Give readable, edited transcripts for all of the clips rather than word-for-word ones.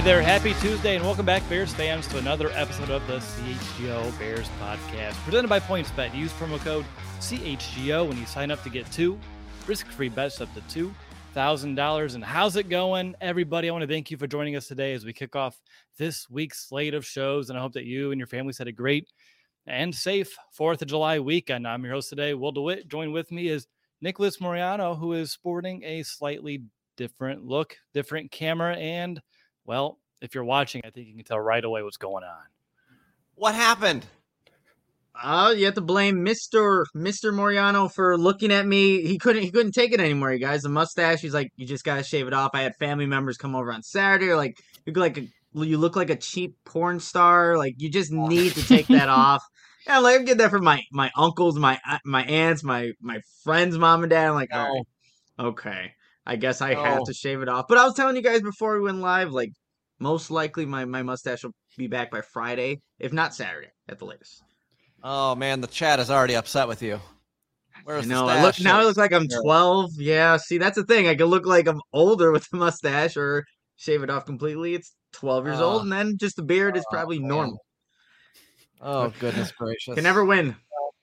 Hey there, happy Tuesday, and welcome back, Bears fans, to another episode of the CHGO Bears podcast, presented by PointsBet. Use promo code CHGO when you sign up to get two risk-free bets up to $2,000. And how's it going, everybody? I want to thank you for joining us today as we kick off this week's slate of shows, and I hope that you and your families had a great and safe 4th of July weekend. I'm your host today, Will DeWitt. Joined with me is Nicholas Moriano, who is sporting a slightly different look, different camera, and well, if you're watching, I think you can tell right away what's going on. What happened? You have to blame Mr. Moriano for looking at me. He couldn't take it anymore, you guys. The mustache, he's like, you just gotta shave it off. I had family members come over on Saturday, like you look like a cheap porn star. Like, you just need to take that off. And I'm like, I get that from my uncles, my aunts, my friends' mom and dad. I'm like, all right, okay. I guess I have to shave it off. But I was telling you guys before we went live, like, most likely my mustache will be back by Friday, if not Saturday at the latest. Oh, man, the chat is already upset with you. Where's I look like I'm 12. Yeah, see, that's the thing. I can look like I'm older with the mustache or shave it off completely. It's 12 years old, and then just the beard is probably normal. Oh, goodness gracious. Can never win.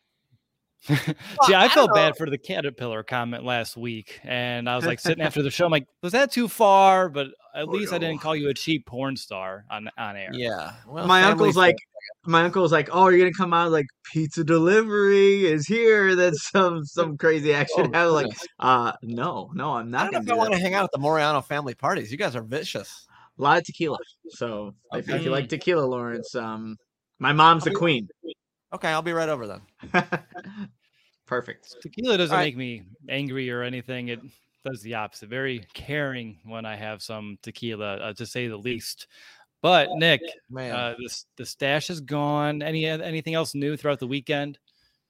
See, I felt bad for the Caterpillar comment last week, and I was like sitting after the show, I'm like, was that too far? But at least I didn't call you a cheap porn star on air. Yeah. Well, my uncle's like, oh, you're gonna come out like pizza delivery is here. That's some crazy action. I was like, no, I'm not. I don't know if I want to hang out at the Moriano family parties. You guys are vicious. A lot of tequila. So if you like tequila, Lawrence, my mom's the queen. Okay, I'll be right over then. Perfect. Tequila doesn't make me angry or anything. It does the opposite. Very caring when I have some tequila, to say the least. But Nick, the stash is gone. Anything else new throughout the weekend?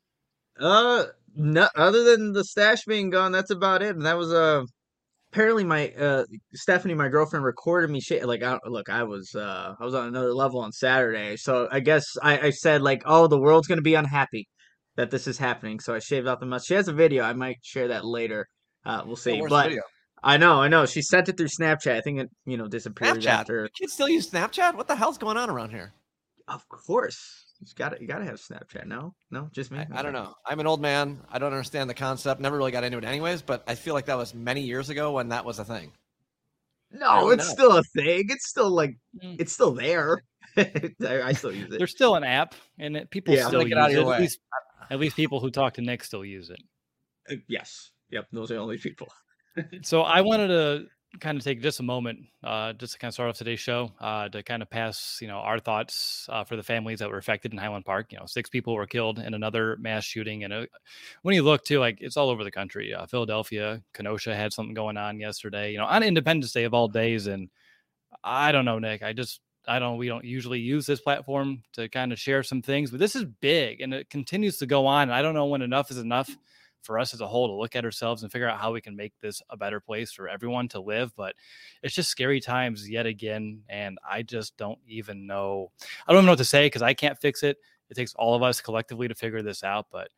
No, other than the stash being gone, that's about it. And that was apparently my Stephanie, my girlfriend, recorded me. I was on another level on Saturday, so I guess I said like, oh, the world's gonna be unhappy that this is happening. So I shaved off the mustache. She has a video. I might share that later. We'll see. Where's but the video? I know. She sent it through Snapchat. I think it disappeared after. You kids still use Snapchat? What the hell's going on around here? Of course. You gotta have Snapchat. No, just me. I don't know. I'm an old man. I don't understand the concept. Never really got into it anyways, but I feel like that was many years ago when that was a thing. No, it's still a thing. It's still it's still there. I still use it. There's still an app, and people still use it. At least people who talk to Nick still use it. Yes. Yep. Those are the only people. So I wanted to kind of take just a moment, just to kind of start off today's show, to kind of pass, our thoughts for the families that were affected in Highland Park. 6 people were killed in another mass shooting, and when you look too, like, it's all over the country. Philadelphia, Kenosha had something going on yesterday. On Independence Day of all days, and I don't know, Nick. We don't usually use this platform to kind of share some things, but this is big, and it continues to go on. And I don't know when enough is enough for us as a whole to look at ourselves and figure out how we can make this a better place for everyone to live. But it's just scary times yet again. And I just don't even know. I don't even know what to say because I can't fix it. It takes all of us collectively to figure this out. But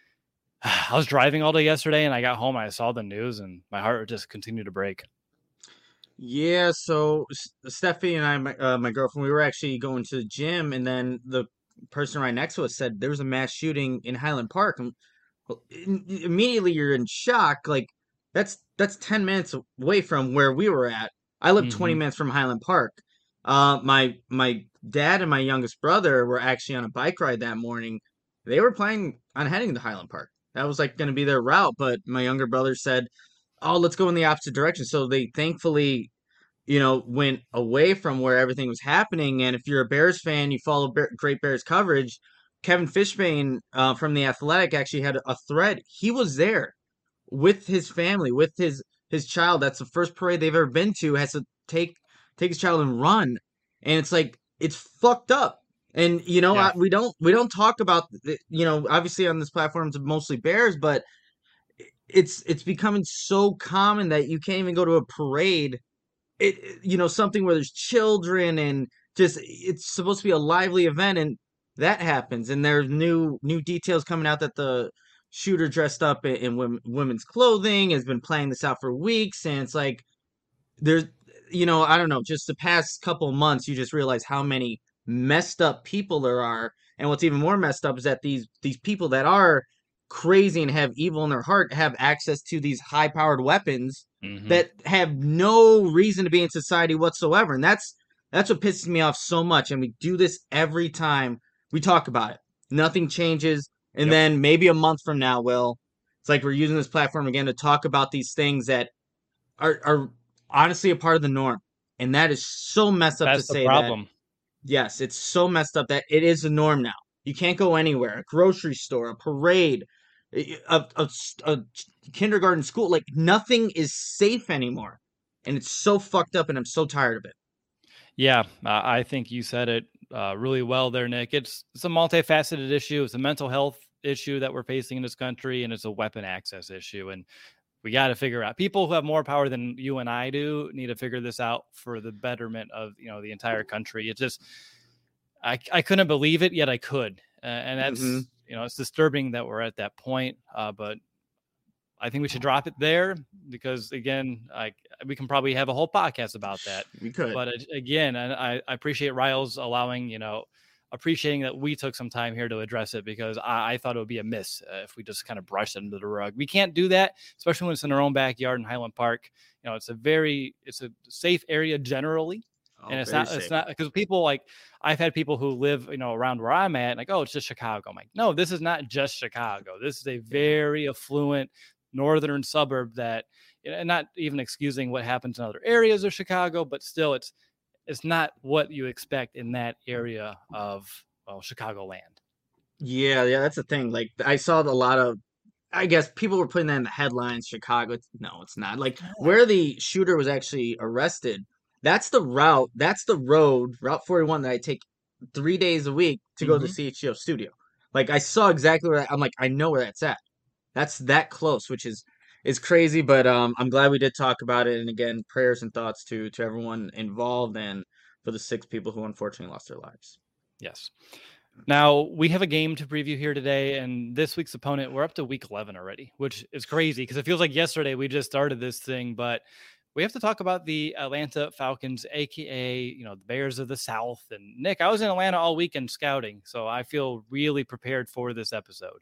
I was driving all day yesterday, and I got home and I saw the news, and my heart just continued to break. Yeah, so Stephanie and I, my girlfriend, we were actually going to the gym, and then the person right next to us said there was a mass shooting in Highland Park, and immediately you're in shock. Like, that's 10 minutes away from where we were at. I live 20 minutes from Highland Park. My dad and my youngest brother were actually on a bike ride that morning. They were planning on heading to Highland Park. That was like going to be their route, but my younger brother said, oh, let's go in the opposite direction. So they thankfully, went away from where everything was happening. And if you're a Bears fan, you follow Great Bears coverage. Kevin Fishbane from The Athletic actually had a thread. He was there with his family, with his child. That's the first parade they've ever been to. Has to take his child and run, and it's like, it's fucked up. And we don't talk about obviously on this platform it's mostly Bears, but it's becoming so common that you can't even go to a parade. Something where there's children and just, it's supposed to be a lively event, and that happens. And there's new details coming out that the shooter dressed up in women's clothing has been planning this out for weeks, and it's like I don't know, just the past couple of months, you just realize how many messed up people there are. And what's even more messed up is that these people that are crazy and have evil in their heart have access to these high-powered weapons Hmm. that have no reason to be in society whatsoever. And that's what pisses me off so much. And we do this every time we talk about it. Nothing changes. And Yep. then maybe a month from now, it's like we're using this platform again to talk about these things that are honestly a part of the norm. And that is so messed up to That's the say that. problem. Yes, it's so messed up that it is the norm now. You can't go anywhere. A grocery store, a parade, a kindergarten school, like nothing is safe anymore. And it's so fucked up and I'm so tired of it. Yeah, I think you said it really well there, Nick. It's a multifaceted issue. It's a mental health issue that we're facing in this country, and it's a weapon access issue. And we got to figure out, people who have more power than you and I do need to figure this out for the betterment of the entire country. It's just I couldn't believe it, yet I could, and Hmm. that's it's disturbing that we're at that point. But I think we should drop it there because again, we can probably have a whole podcast about that. We could. But again, and I appreciate Riles allowing, appreciating that we took some time here to address it because I thought it would be a miss if we just kind of brushed it under the rug. We can't do that, especially when it's in our own backyard in Highland Park. It's a safe area generally. Oh, And very it's safe. not because people like I've had people who live, around where I'm at, like, oh, it's just Chicago. I'm like, no, this is not just Chicago. This is a very affluent northern suburb that, and not even excusing what happens in other areas of Chicago, but still it's not what you expect in that area of, well, Chicagoland. Yeah, that's the thing. Like I saw a lot of, I guess people were putting that in the headlines. Chicago. No, it's not. Like where the shooter was actually arrested. That's the route. That's the road, Route 41, that I take 3 days a week to go to the Mm-hmm. CHGO studio. Like I saw exactly where I'm like I know where that's at. That's that close, which is crazy. But I'm glad we did talk about it. And again, prayers and thoughts to everyone involved and for the 6 people who unfortunately lost their lives. Yes. Now we have a game to preview here today, and this week's opponent, we're up to week 11 already, which is crazy because it feels like yesterday we just started this thing, but we have to talk about the Atlanta Falcons, aka, the Bears of the South. And Nick, I was in Atlanta all weekend scouting, so I feel really prepared for this episode.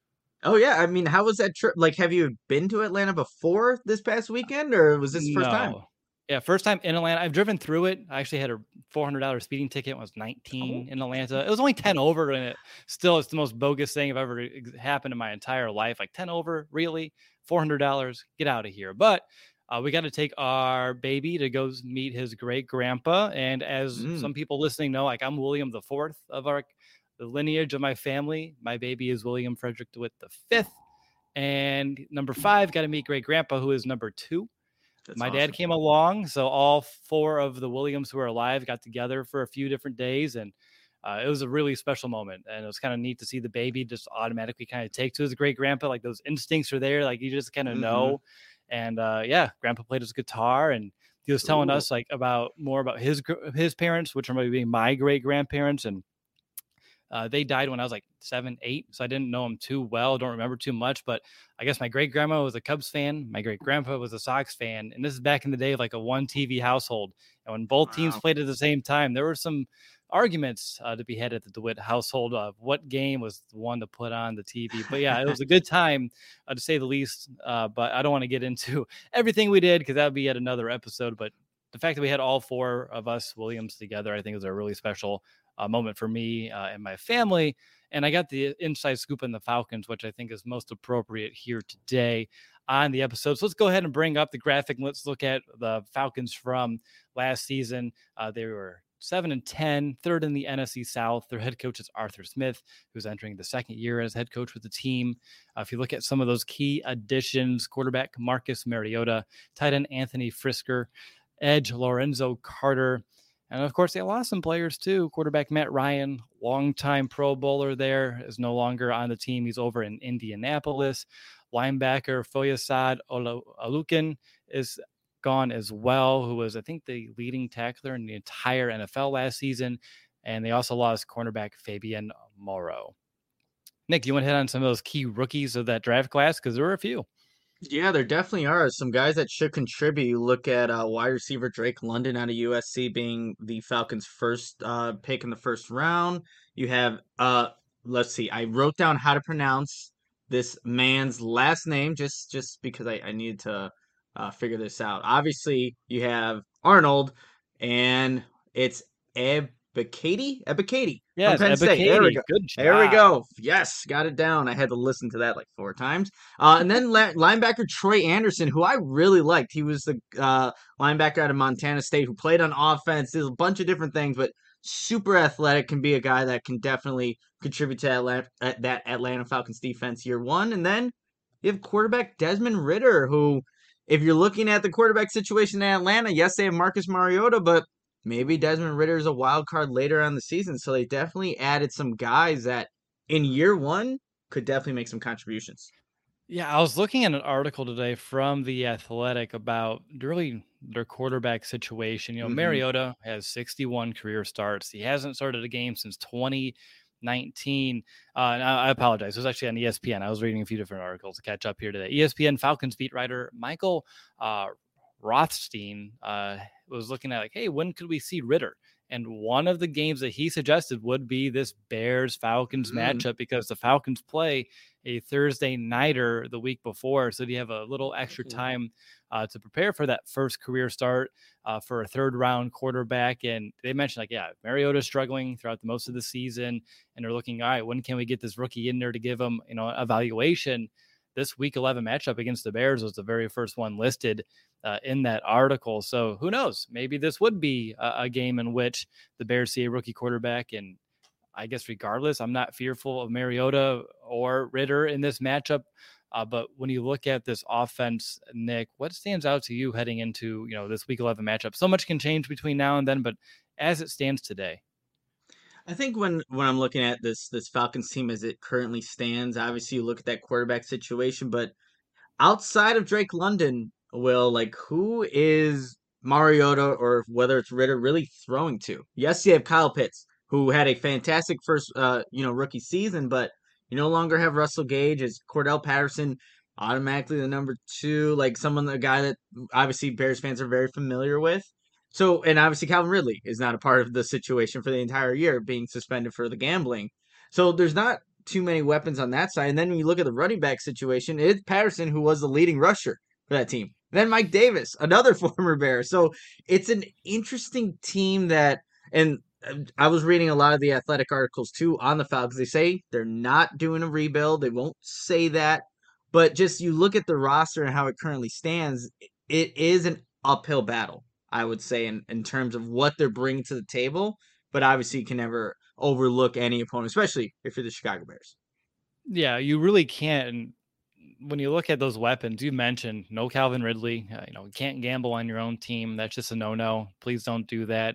Oh yeah, I mean, how was that trip? Like, have you been to Atlanta before this past weekend, or was this the first time? No. Yeah, first time in Atlanta. I've driven through it. I actually had a $400 speeding ticket when I was Oh, 19 in Atlanta. It was only 10 over, and it's the most bogus thing I've ever happened in my entire life. Like 10 over, really? $400? Get out of here. But we got to take our baby to go meet his great grandpa. And as mm, some people listening know, like I'm William the Fourth of the lineage of my family. My baby is William Frederick DeWitt the Fifth. And number 5, got to meet great grandpa, who is number 2. that's My dad awesome. came along, so all 4 of the Williams who are alive got together for a few different days, and it was a really special moment. And it was kind of neat to see the baby just automatically kind of take to his great grandpa. Like those instincts are there, like you just kind of Mm-hmm. know. And yeah, grandpa played his guitar, and he was telling Ooh, us like about more about his parents, which are maybe my great grandparents, and they died when I was like 7, 8, so I didn't know them too well. Don't remember too much, but I guess my great grandma was a Cubs fan. My great grandpa was a Sox fan, and this is back in the day of like a 1 TV household. And when both teams wow. played at the same time, there were some arguments to be had at the DeWitt household of what game was the one to put on the TV. But yeah, it was a good time to say the least. But I don't want to get into everything we did because that would be yet another episode. But the fact that we had all 4 of us Williams together, I think was a really special moment for me and my family. And I got the inside scoop on the Falcons, which I think is most appropriate here today on the episode. So let's go ahead and bring up the graphic. And let's look at the Falcons from last season. They were 7-10, third in the NFC South. Their head coach is Arthur Smith, who's entering the second year as head coach with the team. If you look at some of those key additions, quarterback Marcus Mariota, tight end Anthony Frisker, edge Lorenzo Carter, and of course, they lost some players too. Quarterback Matt Ryan, longtime Pro Bowler there, is no longer on the team. He's over in Indianapolis. Linebacker Foyesade Alukin is gone as well, who was, I think, the leading tackler in the entire NFL last season. And they also lost cornerback Fabian Moreau. Nick, do you want to hit on some of those key rookies of that draft class? Because there were a few. Yeah, there definitely are some guys that should contribute. You look at wide receiver Drake London out of USC being the Falcons' first pick in the first round. You have let's see, I wrote down how to pronounce this man's last name just because I needed to figure this out. Obviously, you have Arnold, and it's Ebiketie. Ebiketie from Yes, Penn State. There we Ebiketie. go. Good There we job. go. Yes, got it down. I had to listen to that like 4 times. And then linebacker Troy Anderson, who I really liked. He was the linebacker out of Montana State who played on offense, did a bunch of different things, but super athletic, can be a guy that can definitely contribute to that Atlanta Falcons defense year one. And then you have quarterback Desmond Ritter, who, if you're looking at the quarterback situation in Atlanta, yes, they have Marcus Mariota, but maybe Desmond Ritter is a wild card later on the season. So they definitely added some guys that in year one could definitely make some contributions. Yeah, I was looking at an article today from The Athletic about really their quarterback situation. Hmm. Mariota has 61 career starts. He hasn't started a game since 2019. And I apologize. It was actually on ESPN. I was reading a few different articles to catch up here today. ESPN Falcons beat writer Michael uh, Rothstein was looking at like, hey, when could we see Ritter? And one of the games that he suggested would be this Bears Falcons Mm. matchup because the Falcons play a Thursday nighter the week before. So you have a little extra time to prepare for that first career start for a third round quarterback. And they mentioned, like, yeah, Mariota's struggling throughout the most of the season. And they're looking, all right, when can we get this rookie in there to give him, evaluation? This week 11 matchup against the Bears was the very first one listed in that article. So who knows? Maybe this would be a game in which the Bears see a rookie quarterback. And I guess regardless, I'm not fearful of Mariota or Ritter in this matchup. But when you look at this offense, Nick, what stands out to you heading into this Week 11 matchup? So much can change between now and then, but as it stands today, I think when I'm looking at this Falcons team as it currently stands, obviously you look at that quarterback situation, but outside of Drake London, Will, like, who is Mariota or whether it's Ritter really throwing to? Yes, you have Kyle Pitts, who had a fantastic first rookie season, but you no longer have Russell Gage as Cordell Patterson automatically the number two, like someone a guy that obviously Bears fans are very familiar with. So, and obviously Calvin Ridley is not a part of the situation for the entire year, being suspended for the gambling. So there's not too many weapons on that side. And then when you look at the running back situation, it's Patterson who was the leading rusher for that team. Then Mike Davis, another former Bear. So it's an interesting team that, and I was reading a lot of the athletic articles too on the Falcons. They say they're not doing a rebuild. They won't say that, but just you look at the roster and how it currently stands, it is an uphill battle, I would say, in terms of what they're bringing to the table. But obviously, you can never overlook any opponent, especially if you're the Chicago Bears. yeah, you really can't. And when you look at those weapons, you mentioned no Calvin Ridley. You can't gamble on your own team. That's just a no-no. Please don't do that.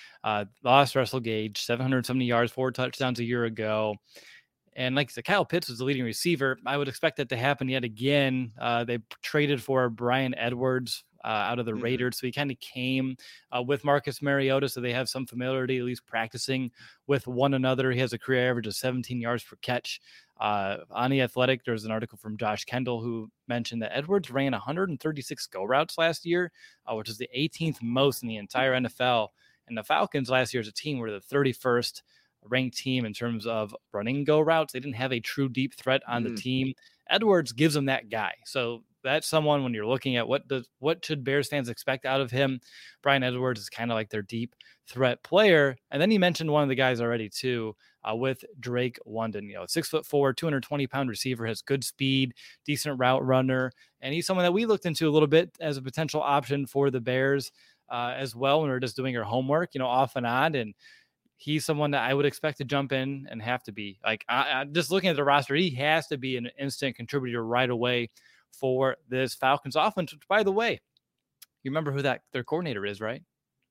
Lost Russell Gage, 770 yards, 4 touchdowns a year ago. And like I said, Kyle Pitts was the leading receiver. I would expect that to happen yet again. They traded for Brian Edwards out of the Mm-hmm. Raiders. So he kind of came with Marcus Mariota. So they have some familiarity, at least practicing with one another. He has a career average of 17 yards per catch. On The Athletic, there's an article from Josh Kendall who mentioned that Edwards ran 136 go routes last year, which is the 18th most in the entire NFL. And the Falcons last year as a team were the 31st ranked team in terms of running go routes. They didn't have a true deep threat on the team. Edwards gives them that guy. So that's someone when you're looking at what should Bears fans expect out of him. Brian Edwards is kind of like their deep threat player. And then you mentioned one of the guys already too, with Drake London. 6'4", 220-pound receiver, has good speed, decent route runner, and he's someone that we looked into a little bit as a potential option for the Bears as well when we are just doing our homework, off and on. And he's someone that I would expect to jump in and have to be like, just looking at the roster, he has to be an instant contributor right away for this Falcons offense, which, by the way, you remember who their coordinator is, right?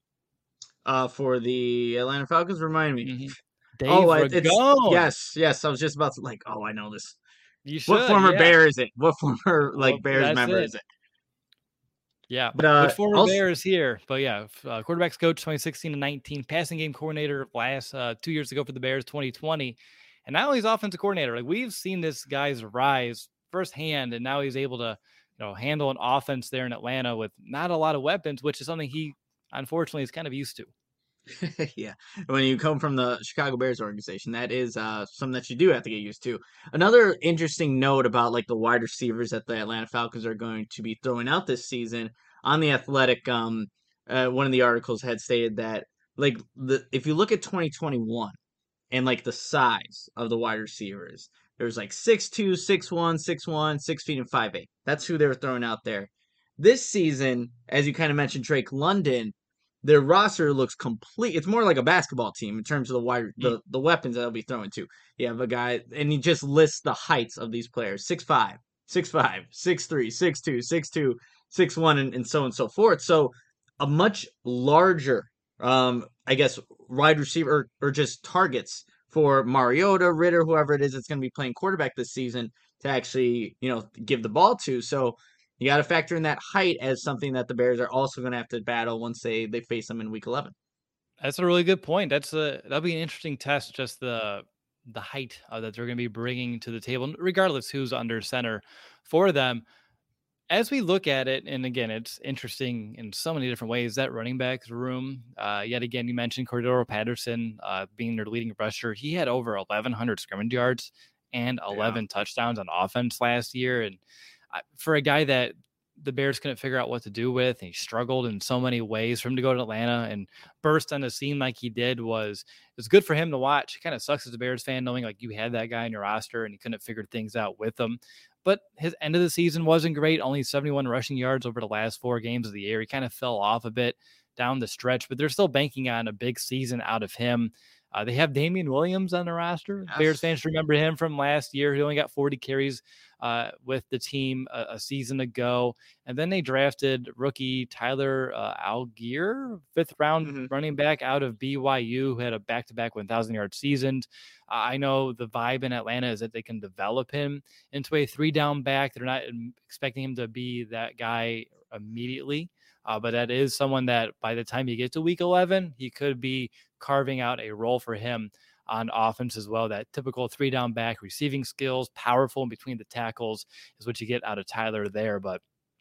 For the Atlanta Falcons, remind me. Mm-hmm. Oh, Dave it's Ragone. yes. I was just about to like. Oh, I know this. You What should, former yeah. Bear is it? What former Well, Bears that's member it. is it? Yeah. But Which former also, Bear is here? But yeah, quarterbacks coach 2016 and 19, passing game coordinator last 2 years ago for the Bears 2020. And now he's offensive coordinator. Like, we've seen this guy's rise firsthand, and now he's able to handle an offense there in Atlanta with not a lot of weapons, which is something he unfortunately is kind of used to. Yeah, when you come from the Chicago Bears organization, that is something that you do have to get used to. Another interesting note about like the wide receivers that the Atlanta Falcons are going to be throwing out this season on the Athletic, one of the articles had stated that like if you look at 2021 and like the size of the wide receivers, there's like 6'2", 6'1", 6'1", 6 feet and 5'8". That's who they were throwing out there. This season, as you kind of mentioned, Drake London, their roster looks complete. It's more like a basketball team in terms of the weapons that they'll be throwing to. You have a guy, and he just lists the heights of these players: 6'5", 6'5", 6'3", 6'2", 6'2", 6'1", and so on and so forth. So a much larger, I guess, wide receiver or just targets for Mariota, Ritter, whoever it is that's going to be playing quarterback this season to actually, give the ball to. So you got to factor in that height as something that the Bears are also going to have to battle once they face them in Week 11. That's a really good point. That'll be an interesting test, just the height that they're going to be bringing to the table, regardless who's under center for them. As we look at it, and again, it's interesting in so many different ways, that running back room. Yet again, you mentioned Cordero Patterson being their leading rusher. He had over 1,100 scrimmage yards and 11 touchdowns on offense last year. And for a guy that the Bears couldn't figure out what to do with, and he struggled in so many ways, for him to go to Atlanta and burst on the scene like he did was good for him to watch. It kind of sucks as a Bears fan knowing like you had that guy on your roster and you couldn't figure things out with him. But his end of the season wasn't great. Only 71 rushing yards over the last 4 games of the year. He kind of fell off a bit down the stretch, but they're still banking on a big season out of him. They have Damian Williams on the roster. Yes. Bears fans remember him from last year. He only got 40 carries with the team a season ago. And then they drafted rookie Tyler Algier, 5th round running back out of BYU, who had a back-to-back 1,000-yard seasons. I know the vibe in Atlanta is that they can develop him into a 3-down back. They're not expecting him to be that guy immediately. But that is someone that by the time you get to Week 11, he could be carving out a role for him on offense as well. That typical 3-down back, receiving skills, powerful in between the tackles is what you get out of Tyler there. But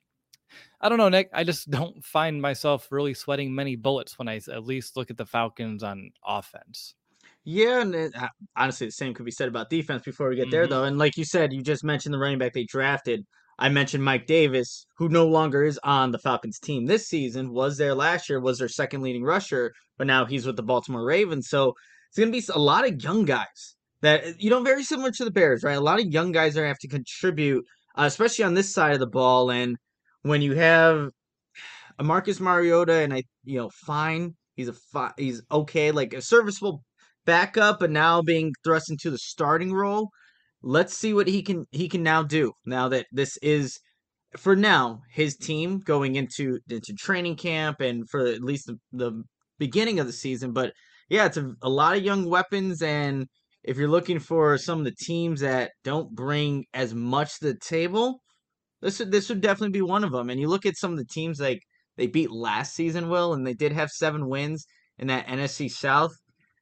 I don't know, Nick. I just don't find myself really sweating many bullets when I at least look at the Falcons on offense. Yeah, and honestly, the same could be said about defense before we get there, though. And like you said, you just mentioned the running back they drafted. I mentioned Mike Davis, who no longer is on the Falcons team this season, was there last year, was their second leading rusher, but now he's with the Baltimore Ravens. So it's going to be a lot of young guys that, very similar to the Bears, right? A lot of young guys are going to have to contribute, especially on this side of the ball. And when you have a Marcus Mariota and fine, he's okay, like a serviceable backup, but now being thrust into the starting role. Let's see what he can now do. Now that this is, for now, his team going into training camp and for at least the beginning of the season. But yeah, it's a lot of young weapons, and if you're looking for some of the teams that don't bring as much to the table, this would definitely be one of them. And you look at some of the teams like they beat last season, Will, and they did have 7 wins in that NFC South.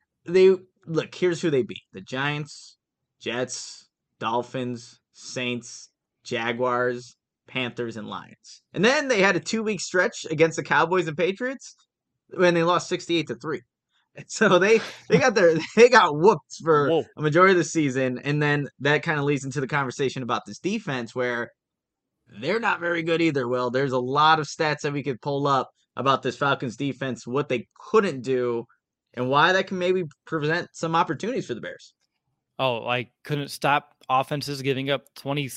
Here's who they beat: the Giants, Jets, Dolphins, Saints, Jaguars, Panthers, and Lions. And then they had a 2-week stretch against the Cowboys and Patriots when they lost 68-3. So they got whooped for a majority of the season. And then that kind of leads into the conversation about this defense where they're not very good either. Well, there's a lot of stats that we could pull up about this Falcons defense, what they couldn't do, and why that can maybe present some opportunities for the Bears. Oh, I couldn't stop offenses giving up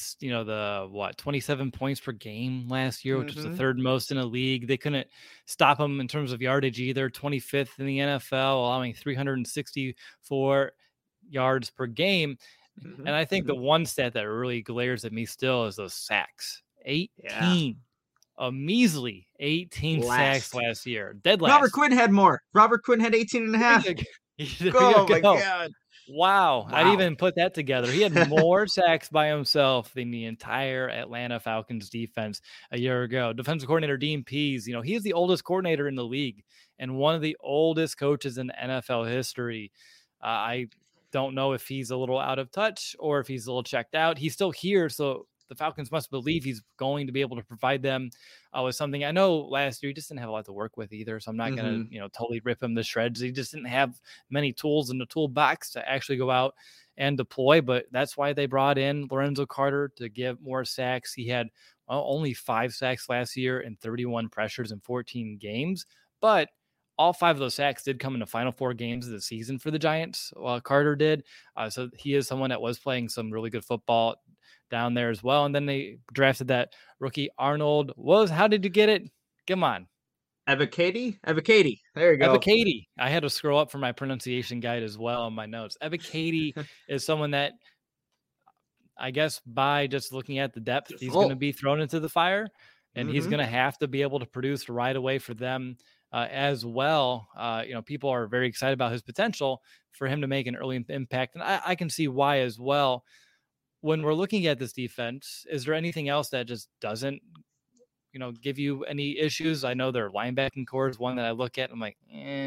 27 points per game last year, which was the 3rd most in the league. They couldn't stop them in terms of yardage either, 25th in the NFL, allowing 364 yards per game. And I think the one stat that really glares at me still is those sacks. 18. Yeah. A measly 18 sacks last year. Dead last. Robert Quinn had more. Robert Quinn had 18 and a half. Oh, my God. Wow. I didn't even put that together. He had more sacks by himself than the entire Atlanta Falcons defense a year ago. Defensive coordinator Dean Pease, he is the oldest coordinator in the league and one of the oldest coaches in NFL history. I don't know if he's a little out of touch or if he's a little checked out. He's still here, so the Falcons must believe he's going to be able to provide them with something. I know last year he just didn't have a lot to work with either, so I'm not going to totally rip him to shreds. He just didn't have many tools in the toolbox to actually go out and deploy, but that's why they brought in Lorenzo Carter to give more sacks. He had only 5 sacks last year and 31 pressures in 14 games, but all 5 of those sacks did come in the final 4 games of the season for the Giants. Carter did. So he is someone that was playing some really good football down there as well. And then they drafted that rookie Arnold. How did you get it? Come on. Ebiketie? There you go. Ebiketie. I had to scroll up for my pronunciation guide as well on my notes. Ebiketie is someone that, I guess, by just looking at the depth, he's going to be thrown into the fire, and he's going to have to be able to produce right away for them as well. People are very excited about his potential for him to make an early impact, and I can see why as well. When we're looking at this defense, is there anything else that just doesn't, give you any issues? I know their linebacking core is one that I look at and I'm like,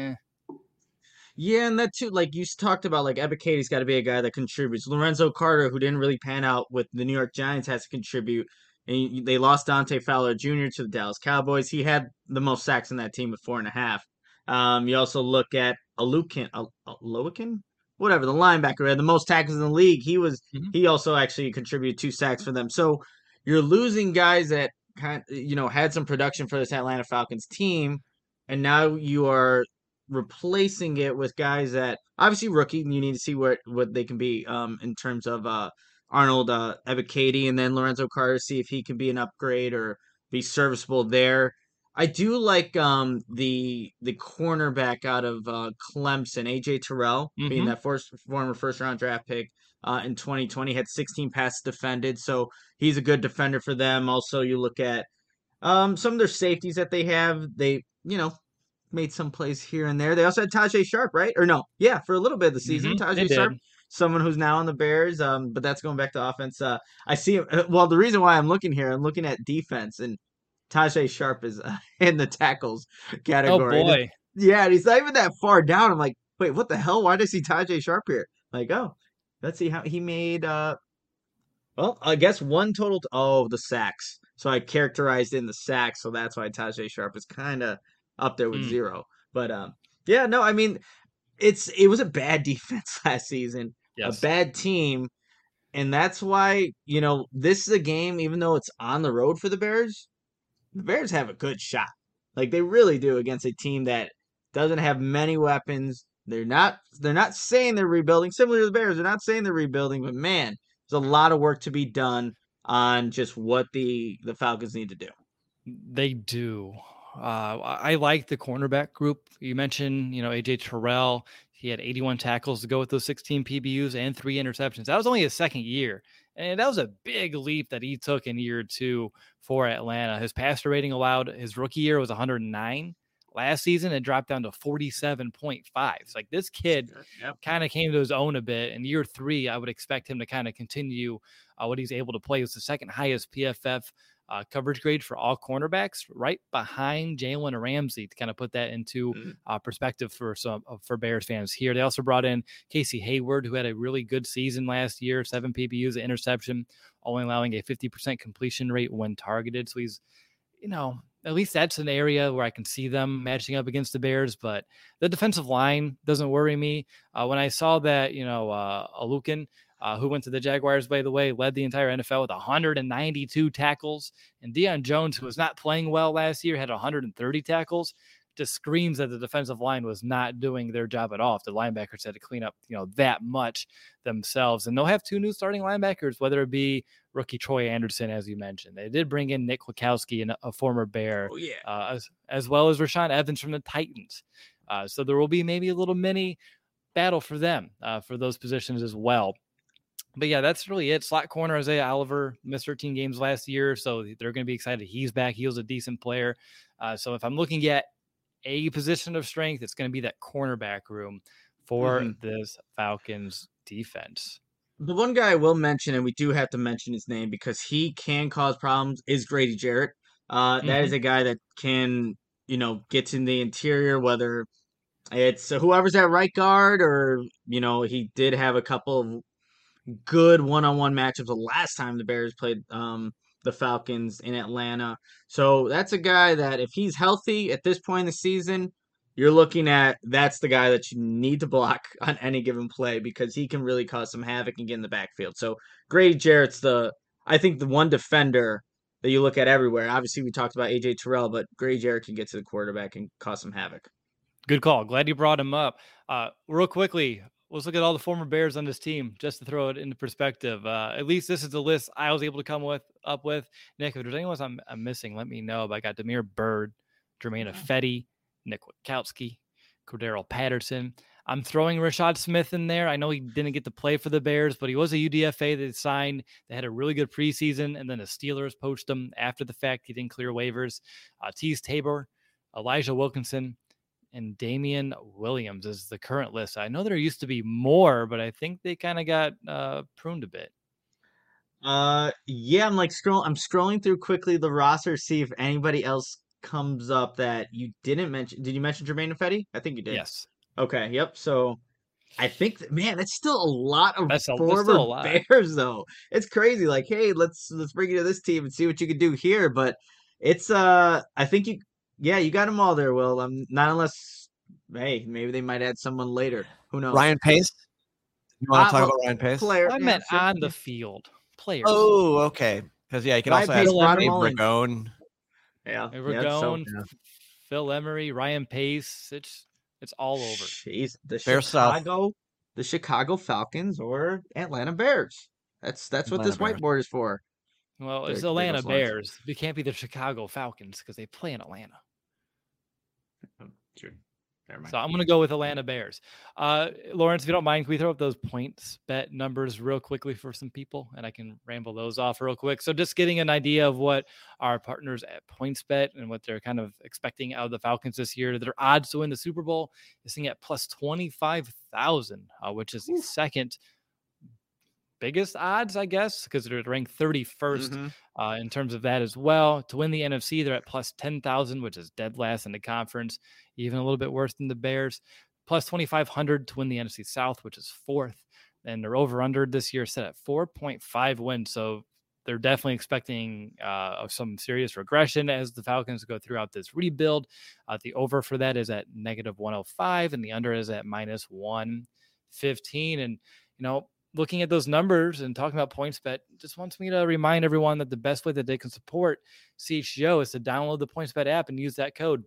Yeah, and that too, like you talked about, like Ebiketie's got to be a guy that contributes. Lorenzo Carter, who didn't really pan out with the New York Giants, has to contribute. And they lost Dante Fowler Jr. to the Dallas Cowboys. He had the most sacks in that team with 4.5. You also look at Aloakin, whatever, the linebacker, had the most tackles in the league. He also actually contributed 2 sacks for them. So you're losing guys that had some production for this Atlanta Falcons team, and now you are replacing it with guys that obviously rookie. You need to see what they can be in terms of Arnold Ebiketie and then Lorenzo Carter, see if he can be an upgrade or be serviceable there. I do like the cornerback out of Clemson, AJ Terrell, being that former first round draft pick in 2020, had 16 passes defended, so he's a good defender for them. Also, you look at some of their safeties that they have. They made some plays here and there. They also had Tajay Sharp, right? Or no? Yeah, for a little bit of the season. Tajay Sharp, someone who's now on the Bears, but that's going back to offense. I see. Well, the reason why I'm looking at defense, and Tajay Sharp is in the tackles category. Oh boy, yeah, and he's not even that far down. I'm like, wait, what the hell? Why did I see Tajay Sharp here? Like, oh, let's see how he made. Well, I guess one total. The sacks. So I characterized in the sacks, so that's why Tajay Sharp is kind of up there with 0. But yeah, no, I mean, it was a bad defense last season, a bad team, and that's why this is a game. Even though it's on the road for the Bears have a good shot. Like they really do against a team that doesn't have many weapons. They're not saying they're rebuilding. Similar to the Bears, they're not saying they're rebuilding, but man, there's a lot of work to be done on just what the Falcons need to do. They do. I like the cornerback group. You mentioned, AJ Terrell. He had 81 tackles to go with those 16 PBUs and 3 interceptions. That was only his second year. And that was a big leap that he took in year 2 for Atlanta. His passer rating allowed his rookie year was 109. Last season, it dropped down to 47.5. It's like this kid kind of came to his own a bit. In year 3, I would expect him to kind of continue what he's able to play. It was the second highest PFF coverage grade for all cornerbacks, right behind Jalen Ramsey, to kind of put that into perspective for Bears fans here. They also brought in Casey Hayward, who had a really good season last year, 7 PBUs, an interception, only allowing a 50% completion rate when targeted. So he's, at least that's an area where I can see them matching up against the Bears, but the defensive line doesn't worry me. When I saw that, Aloakin, who went to the Jaguars, by the way, led the entire NFL with 192 tackles. And Deion Jones, who was not playing well last year, had 130 tackles. Just screams that the defensive line was not doing their job at all. If the linebackers had to clean up, that much themselves. And they'll have 2 new starting linebackers, whether it be rookie Troy Anderson, as you mentioned. They did bring in Nick Kwiatkowski, and a former Bear, as well as Rashaan Evans from the Titans. So there will be maybe a little mini battle for them for those positions as well. But yeah, that's really it. Slot corner, Isaiah Oliver missed 13 games last year, so they're going to be excited he's back. He was a decent player. So if I'm looking at a position of strength, it's going to be that cornerback room for this Falcons defense. The one guy I will mention, and we do have to mention his name because he can cause problems, is Grady Jarrett. That is a guy that can, get in the interior, whether it's whoever's at right guard or, he did have a couple of good one-on-one matchups the last time the Bears played the Falcons in Atlanta. So that's a guy that if he's healthy at this point in the season, you're looking at that's the guy that you need to block on any given play because he can really cause some havoc and get in the backfield. So Grady Jarrett's I think the one defender that you look at everywhere. Obviously, we talked about AJ Terrell, but Grady Jarrett can get to the quarterback and cause some havoc. Good call. Glad you brought him up. Real quickly, let's look at all the former Bears on this team just to throw it into perspective. At least this is the list I was able to come up with. Nick, if there's anyone I'm missing, let me know. But I got Damiere Byrd, Germain Ifedi, Nick Witkowski, Cordero Patterson. I'm throwing Rashad Smith in there. I know he didn't get to play for the Bears, but he was a UDFA that signed. They had a really good preseason, and then the Steelers poached him after the fact. He didn't clear waivers. Tease Tabor, Elijah Wilkinson, and Damian Williams is the current list. I know there used to be more, but I think they kind of got pruned a bit. Yeah, I'm scrolling through quickly the roster to see if anybody else comes up that you didn't mention. Did you mention Germain Ifedi? I think you did. Yes. Okay, yep. So I think man, that's still a lot of That's still a former lot. Bears though. It's crazy. Like, hey, let's bring you to this team and see what you can do here. But it's I think you got them all there, Will. Not unless maybe they might add someone later. Who knows? Ryan Pace. You want to talk about Ryan Pace? Player, I meant on the field. Players. Oh, okay. Because you can Ryan also Pace, add Ron Ragone. Yeah, Ragone, Phil Emery, Ryan Pace. It's all over. Jeez, the Chicago Falcons or Atlanta Bears. That's what this whiteboard is for. Well, it's Atlanta Bears. It can't be the Chicago Falcons because they play in Atlanta. True. Never mind. So I'm going to go with Atlanta Bears. Lawrence, if you don't mind, can we throw up those points bet numbers real quickly for some people? And I can ramble those off real quick. So just getting an idea of what our partners at PointsBet and what they're kind of expecting out of the Falcons this year. Their odds to win the Super Bowl is sitting at plus 25,000, which is the second biggest odds, I guess, because they're ranked 31st in terms of that as well. To win the NFC, they're at plus 10,000, which is dead last in the conference, even a little bit worse than the Bears. Plus 2,500 to win the NFC South, which is fourth. And they're over-under this year set at 4.5 wins. So they're definitely expecting some serious regression as the Falcons go throughout this rebuild. The over for that is at negative 105, and the under is at minus 115. And, looking at those numbers and talking about PointsBet just wants me to remind everyone that the best way that they can support CHGO is to download the PointsBet app and use that code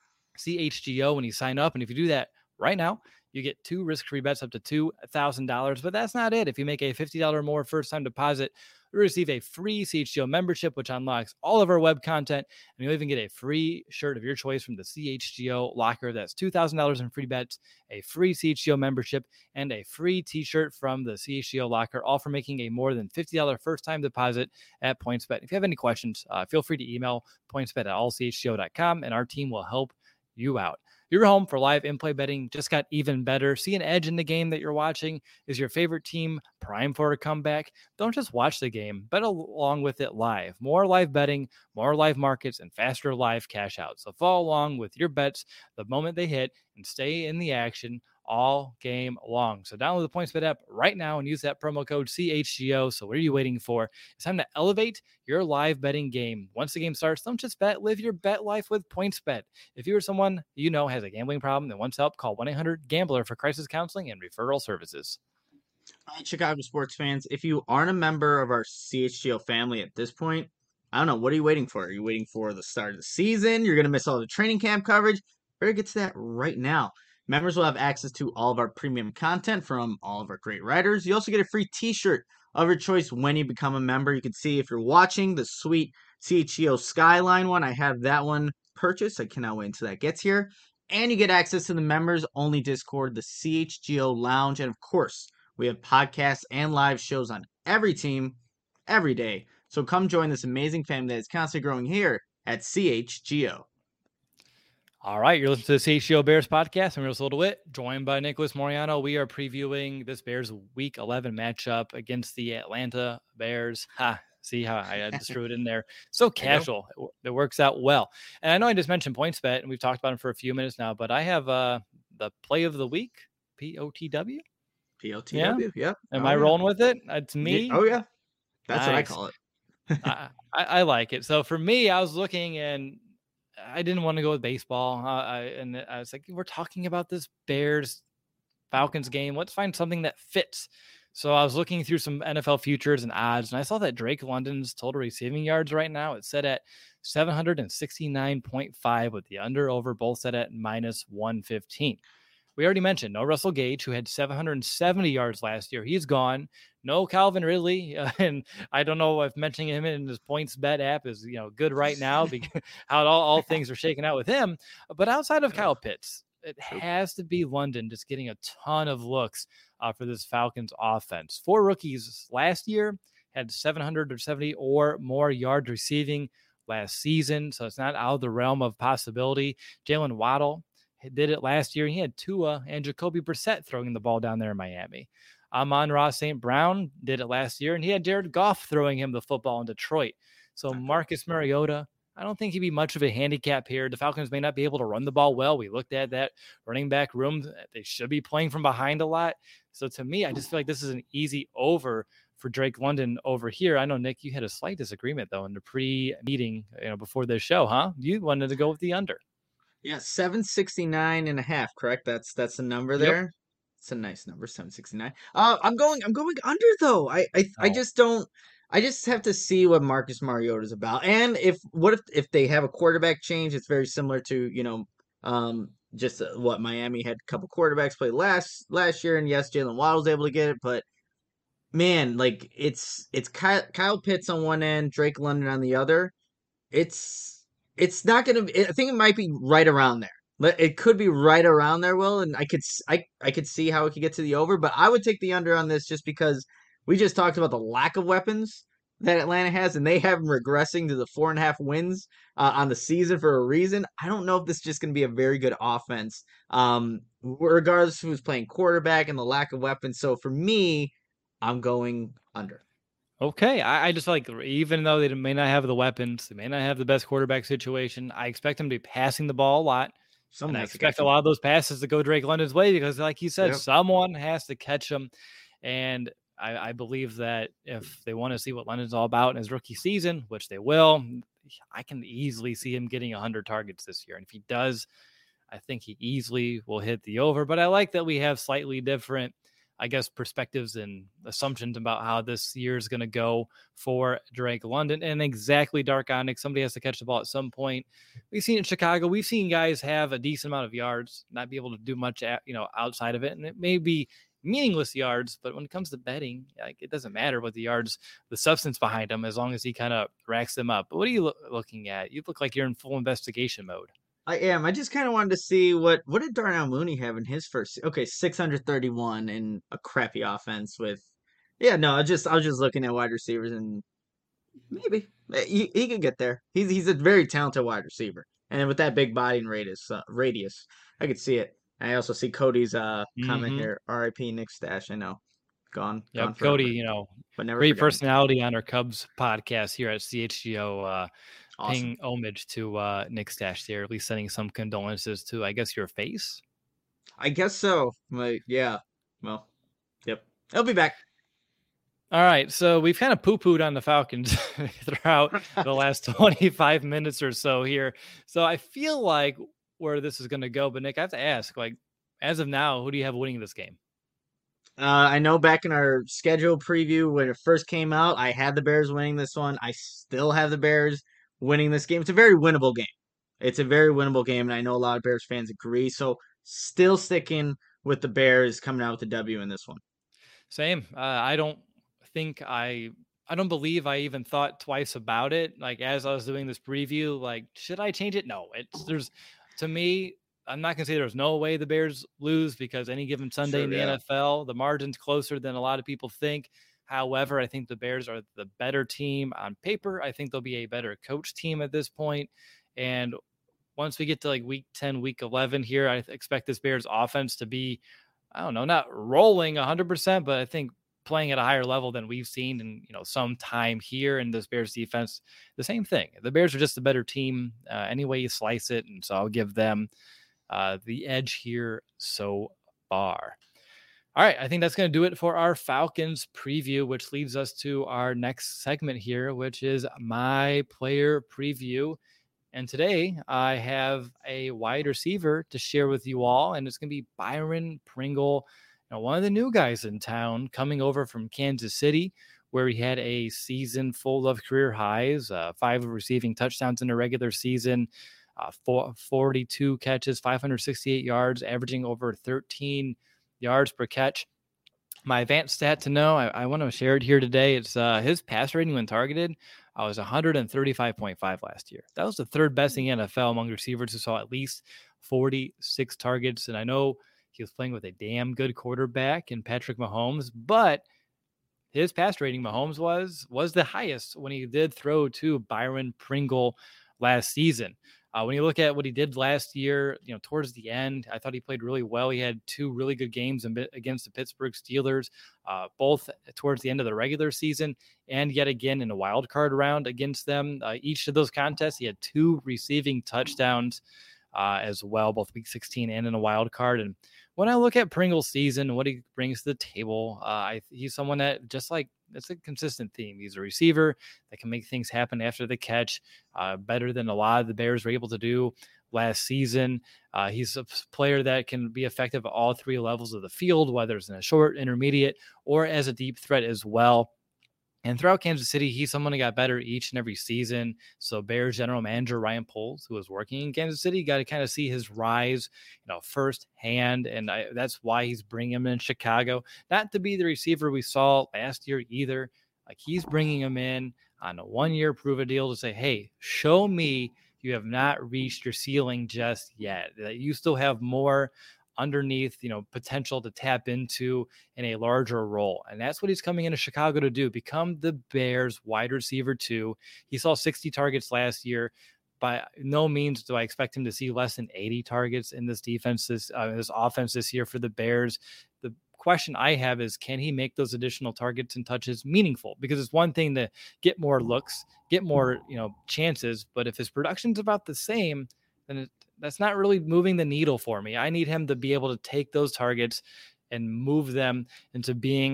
CHGO when you sign up. And if you do that right now, you get 2 risk-free bets up to $2,000. But that's not it. If you make a $50 or more first-time deposit, you receive a free CHGO membership, which unlocks all of our web content. And you'll even get a free shirt of your choice from the CHGO locker. That's $2,000 in free bets, a free CHGO membership, and a free t-shirt from the CHGO locker, all for making a more than $50 first-time deposit at PointsBet. If you have any questions, feel free to email pointsbet@allchgo.com, and our team will help you out. Your home for live in-play betting just got even better. See an edge in the game that you're watching? Is your favorite team primed for a comeback? Don't just watch the game, bet along with it live. More live betting, more live markets, and faster live cash out. So follow along with your bets the moment they hit and stay in the action all game long. So download the PointsBet app right now and use that promo code CHGO. So what are you waiting for? It's time to elevate your live betting game. Once the game starts, don't just bet, live your bet life with PointsBet. If you or someone has a gambling problem and wants help, call 1-800-GAMBLER for crisis counseling and referral services. All right, Chicago sports fans, if you aren't a member of our CHGO family at this point, I don't know, what are you waiting for? Are you waiting for the start of the season? You're going to miss all the training camp coverage? Better get to that right now. Members will have access to all of our premium content from all of our great writers. You also get a free t-shirt of your choice when you become a member. You can see if you're watching the sweet CHGO Skyline one. I have that one purchased. I cannot wait until that gets here. And you get access to the members-only Discord, the CHGO Lounge. And of course, we have podcasts and live shows on every team, every day. So come join this amazing family that is constantly growing here at CHGO. All right, you're listening to the CHGO Bears podcast. I'm Russell DeWitt, joined by Nicholas Moriano. We are previewing this Bears Week 11 matchup against the Atlanta Bears. See how I just threw it in there. So casual. It works out well. And I know I just mentioned PointsBet, and we've talked about it for a few minutes now, but I have the play of the week, POTW. Yeah. PLTW. Yep. Am I rolling with it? It's me. Oh yeah. That's what I Nice. call it. I like it. So for me, I was looking and I didn't want to go with baseball. And I was like, we're talking about this Bears Falcons game. Let's find something that fits. So I was looking through some NFL futures and odds, and I saw that Drake London's total receiving yards right now, it's set at 769.5 with the under over both set at minus 115. We already mentioned no Russell Gage, who had 770 yards last year. He's gone. No Calvin Ridley. And I don't know if mentioning him in his points bet app is, good right now because how all things are shaking out with him. But outside of Kyle Pitts, it has to be London just getting a ton of looks for this Falcons offense. 4 rookies last year had 770 or more yards receiving last season. So it's not out of the realm of possibility. Jalen Waddle did it last year. He had Tua and Jacoby Brissett throwing the ball down there in Miami. Amon-Ra St. Brown did it last year, and he had Jared Goff throwing him the football in Detroit. So Marcus Mariota, I don't think he'd be much of a handicap here. The Falcons may not be able to run the ball well. We looked at that running back room. They should be playing from behind a lot. So to me, I just feel like this is an easy over for Drake London over here. I know, Nick, you had a slight disagreement, though, in the pre-meeting before the show, huh? You wanted to go with the under. Yeah, 769.5, correct? That's the number there. Yep. It's a nice number, 769. I'm going under though. I just don't. I just have to see what Marcus Mariota is about, and if they have a quarterback change, it's very similar to just what Miami had a couple quarterbacks play last year, and yes, Jalen Waddle was able to get it, but man, like it's Kyle Pitts on one end, Drake London on the other. It's not going to. I think it might be right around there. It could be right around there, Will, and I could see how it could get to the over, but I would take the under on this just because we just talked about the lack of weapons that Atlanta has, and they have them regressing to the 4.5 wins on the season for a reason. I don't know if this is just going to be a very good offense, regardless of who's playing quarterback and the lack of weapons. So for me, I'm going under. Okay, I just like, even though they may not have the weapons, they may not have the best quarterback situation, I expect them to be passing the ball a lot. And I expect a lot of those passes to go Drake London's way because, like you said, someone has to catch them. And I believe that if they want to see what London's all about in his rookie season, which they will, I can easily see him getting 100 targets this year. And if he does, I think he easily will hit the over. But I like that we have slightly different, I guess, perspectives and assumptions about how this year is going to go for Drake London. And exactly, Dark Onyx, somebody has to catch the ball at some point. We've seen in Chicago, we've seen guys have a decent amount of yards, not be able to do much outside of it. And it may be meaningless yards, but when it comes to betting, like, it doesn't matter what the yards, the substance behind them, as long as he kind of racks them up. But what are you looking at? You look like you're in full investigation mode. I am. I just kind of wanted to see what did Darnell Mooney have in his first. Okay, 631 in a crappy offense with. Yeah, no, I was just looking at wide receivers and maybe he could get there. He's a very talented wide receiver, and with that big body and radius, I could see it. I also see Cody's comment here. R.I.P. Nick Stash. I know, gone. Yep, gone Cody. But never great personality on our Cubs podcast here at CHGO. Awesome. Paying homage to Nick Stash there, at least sending some condolences to, I guess, your face. I guess so. Yeah. Well, yep. He'll be back. All right. So we've kind of poo-pooed on the Falcons throughout the last 25 minutes or so here. So I feel like where this is going to go. But Nick, I have to ask, like, as of now, who do you have winning this game? I know back in our schedule preview when it first came out, I had the Bears winning this one. I still have the Bears winning this game. It's a very winnable game. And I know a lot of Bears fans agree. So still sticking with the Bears coming out with the W in this one. Same. I don't believe I even thought twice about it. Like, as I was doing this preview, like, should I change it? No. To me, I'm not going to say there's no way the Bears lose because any given Sunday in the NFL, the margin's closer than a lot of people think. However, I think the Bears are the better team on paper. I think they'll be a better coach team at this point. And once we get to like week 10, week 11 here, I expect this Bears offense to be, I don't know, not rolling 100%, but I think playing at a higher level than we've seen in, some time here. In this Bears defense, the same thing. The Bears are just a better team any way you slice it. And so I'll give them the edge here so far. All right, I think that's going to do it for our Falcons preview, which leads us to our next segment here, which is my player preview. And today I have a wide receiver to share with you all, and it's going to be Byron Pringle, one of the new guys in town coming over from Kansas City, where he had a season full of career highs, 5 receiving touchdowns in a regular season, 42 catches, 568 yards, averaging over 13 yards per catch. My advanced stat to know, I want to share it here today. It's his pass rating when targeted. I was 135.5 last year. That was the third best in the NFL among receivers who saw at least 46 targets. And I know he was playing with a damn good quarterback in Patrick Mahomes, but his pass rating, Mahomes was the highest when he did throw to Byron Pringle last season. When you look at what he did last year, towards the end, I thought he played really well. He had 2 really good games against the Pittsburgh Steelers, both towards the end of the regular season and yet again in a wild card round against them. Each of those contests, he had 2 receiving touchdowns as well, both week 16 and in a wild card. And when I look at Pringle's season, what he brings to the table, he's someone that it's a consistent theme. He's a receiver that can make things happen after the catch, better than a lot of the Bears were able to do last season. He's a player that can be effective at all 3 levels of the field, whether it's in a short, intermediate, or as a deep threat as well. And throughout Kansas City, he's someone who got better each and every season. So Bears general manager Ryan Poles, who was working in Kansas City, got to kind of see his rise, firsthand. And that's why he's bringing him in Chicago. Not to be the receiver we saw last year either. Like, he's bringing him in on a 1-year prove-it deal to say, hey, show me you have not reached your ceiling just yet. That you still have more underneath, potential to tap into in a larger role. And that's what he's coming into Chicago to do, become the Bears wide receiver 2. He saw 60 targets last year. By no means do I expect him to see less than 80 targets in this defense, this offense this year for the Bears. The question I have is, can he make those additional targets and touches meaningful? Because it's one thing to get more looks, get more, chances, but if his production's about the same, then that's not really moving the needle for me. I need him to be able to take those targets and move them into being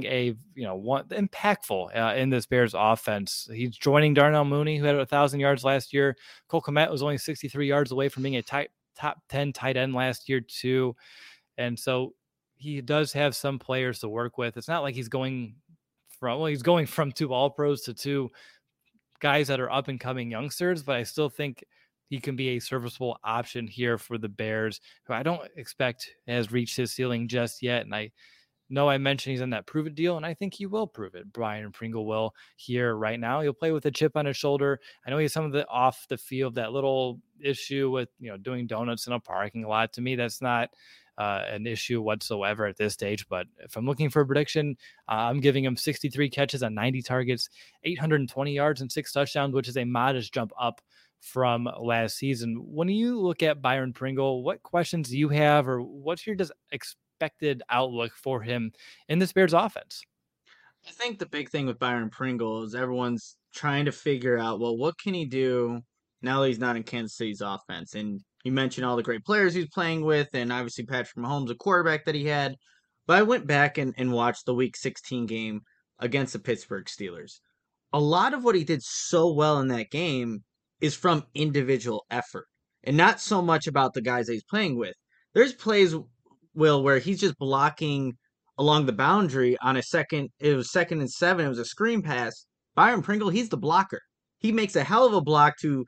impactful in this Bears offense. He's joining Darnell Mooney, who had 1,000 yards last year. Cole Kmet was only 63 yards away from being a top 10 tight end last year too. And so he does have some players to work with. It's not like he's going from 2 All-Pros to 2 guys that are up and coming youngsters, but I still think he can be a serviceable option here for the Bears, who I don't expect has reached his ceiling just yet. And I know I mentioned he's on that prove it deal, and I think he will prove it. Byron Pringle will here right now. He'll play with a chip on his shoulder. I know he has some of the off the field, that little issue with, doing donuts in a parking lot. To me, that's not an issue whatsoever at this stage. But if I'm looking for a prediction, I'm giving him 63 catches on 90 targets, 820 yards and 6 touchdowns, which is a modest jump up from last season. When you look at Byron Pringle, what questions do you have, or what's your expected outlook for him in this Bears offense? I think the big thing with Byron Pringle is everyone's trying to figure out, well, what can he do now that he's not in Kansas City's offense? And you mentioned all the great players he's playing with, and obviously Patrick Mahomes, a quarterback that he had. But I went back and watched the Week 16 game against the Pittsburgh Steelers. A lot of what he did so well in that game is from individual effort and not so much about the guys that he's playing with. There's plays, Will, where he's just blocking along the boundary on it was 2nd and 7. It was a screen pass. Byron Pringle, he's the blocker. He makes a hell of a block to,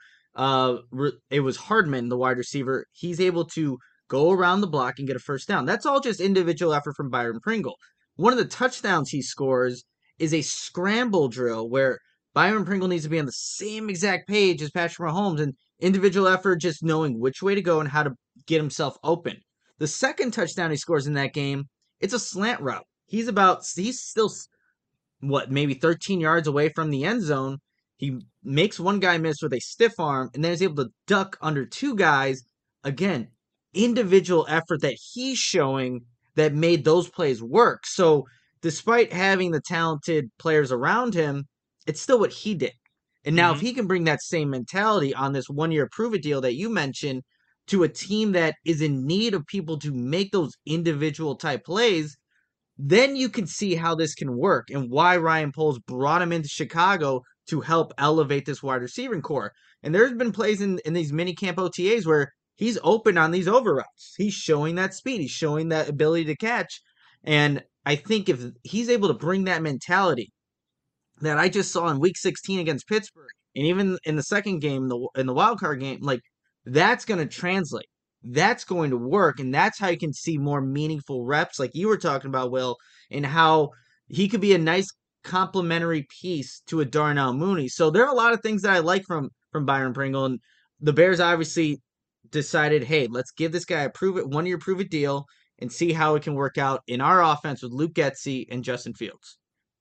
it was Hardman, the wide receiver. He's able to go around the block and get a first down. That's all just individual effort from Byron Pringle. One of the touchdowns he scores is a scramble drill where Byron Pringle needs to be on the same exact page as Patrick Mahomes, and individual effort, just knowing which way to go and how to get himself open. The second touchdown he scores in that game, it's a slant route. He's still, maybe 13 yards away from the end zone. He makes one guy miss with a stiff arm, and then is able to duck under 2 guys. Again, individual effort that he's showing that made those plays work. So despite having the talented players around him, it's still what he did. And now if he can bring that same mentality on this 1-year prove-it deal that you mentioned to a team that is in need of people to make those individual type plays, then you can see how this can work and why Ryan Poles brought him into Chicago to help elevate this wide receiving core. And there's been plays in these mini camp OTAs where he's open on these over routes. He's showing that speed. He's showing that ability to catch. And I think if he's able to bring that mentality that I just saw in Week 16 against Pittsburgh, and even in the second game, in the wild card game, like that's going to translate. That's going to work, and that's how you can see more meaningful reps, like you were talking about, Will, and how he could be a nice complementary piece to a Darnell Mooney. So there are a lot of things that I like from Byron Pringle, and the Bears obviously decided, hey, let's give this guy a 1-year prove it deal and see how it can work out in our offense with Luke Getsy and Justin Fields.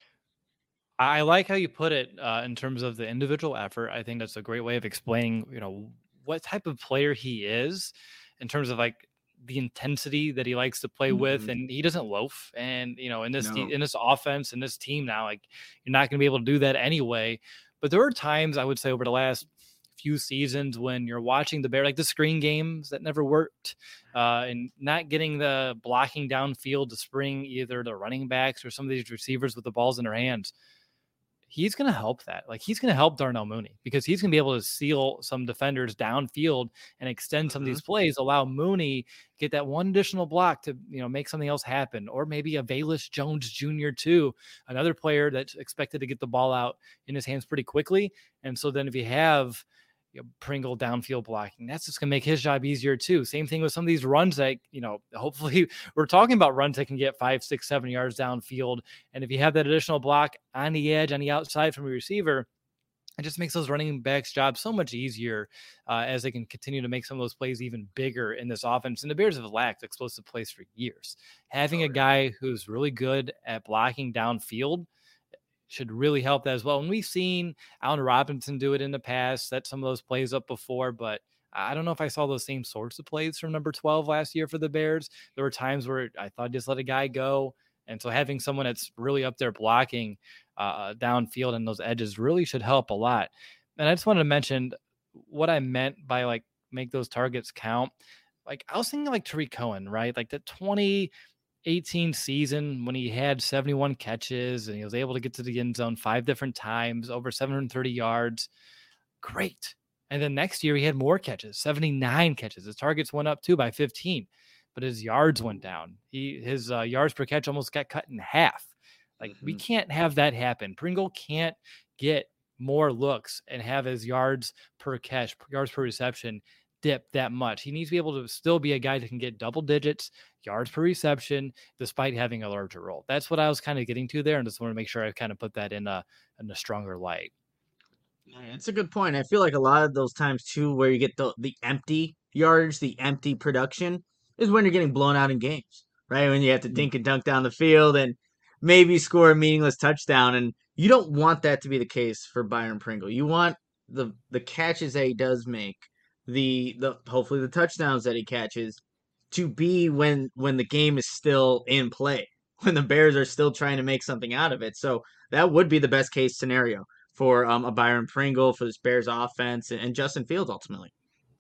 I like how you put it in terms of the individual effort. I think that's a great way of explaining, what type of player he is in terms of like the intensity that he likes to play with, and he doesn't loaf. And in this in this offense and this team now, like you're not going to be able to do that anyway. But there were times I would say over the last few seasons when you're watching the Bear, like the screen games that never worked, and not getting the blocking downfield to spring either the running backs or some of these receivers with the balls in their hands. He's going to help that. Like he's going to help Darnell Mooney because he's going to be able to seal some defenders downfield and extend some of these plays, allow Mooney get that one additional block to, make something else happen. Or maybe a Velus Jones Jr. too, another player that's expected to get the ball out in his hands pretty quickly. And so then if you have Pringle downfield blocking, that's just going to make his job easier too. Same thing with some of these runs that, hopefully we're talking about runs that can get 5, 6, 7 yards downfield. And if you have that additional block on the edge, on the outside from your receiver, it just makes those running backs' jobs so much easier as they can continue to make some of those plays even bigger in this offense. And the Bears have lacked explosive plays for years. Having a guy who's really good at blocking downfield should really help that as well. And we've seen Allen Robinson do it in the past, set some of those plays up before, but I don't know if I saw those same sorts of plays from number 12 last year for the Bears. There were times where I thought just let a guy go. And so having someone that's really up there blocking downfield and those edges really should help a lot. And I just wanted to mention what I meant by like make those targets count. Like I was thinking like Tariq Cohen, right? Like the 2018 season when he had 71 catches and he was able to get to the end zone 5 different times, over 730 yards. Great. And then next year he had more catches, 79 catches. His targets went up too by 15, but his yards went down. His yards per catch almost got cut in half. Like we can't have that happen. Pringle can't get more looks and have his yards per catch, yards per reception dip that much. He needs to be able to still be a guy that can get double digits yards per reception despite having a larger role. That's what I was kind of getting to there, and just want to make sure I kind of put that in a stronger light. It's a good point. I feel like a lot of those times too where you get the empty yardage, the empty production is when you're getting blown out in games, right? When you have to dink and dunk down the field and maybe score a meaningless touchdown, and you don't want that to be the case for Byron Pringle. You want the catches that he does make, the hopefully the touchdowns that he catches to be when the game is still in play, when the Bears are still trying to make something out of it. So that would be the best case scenario for a Byron Pringle, for this Bears offense, and Justin Fields ultimately.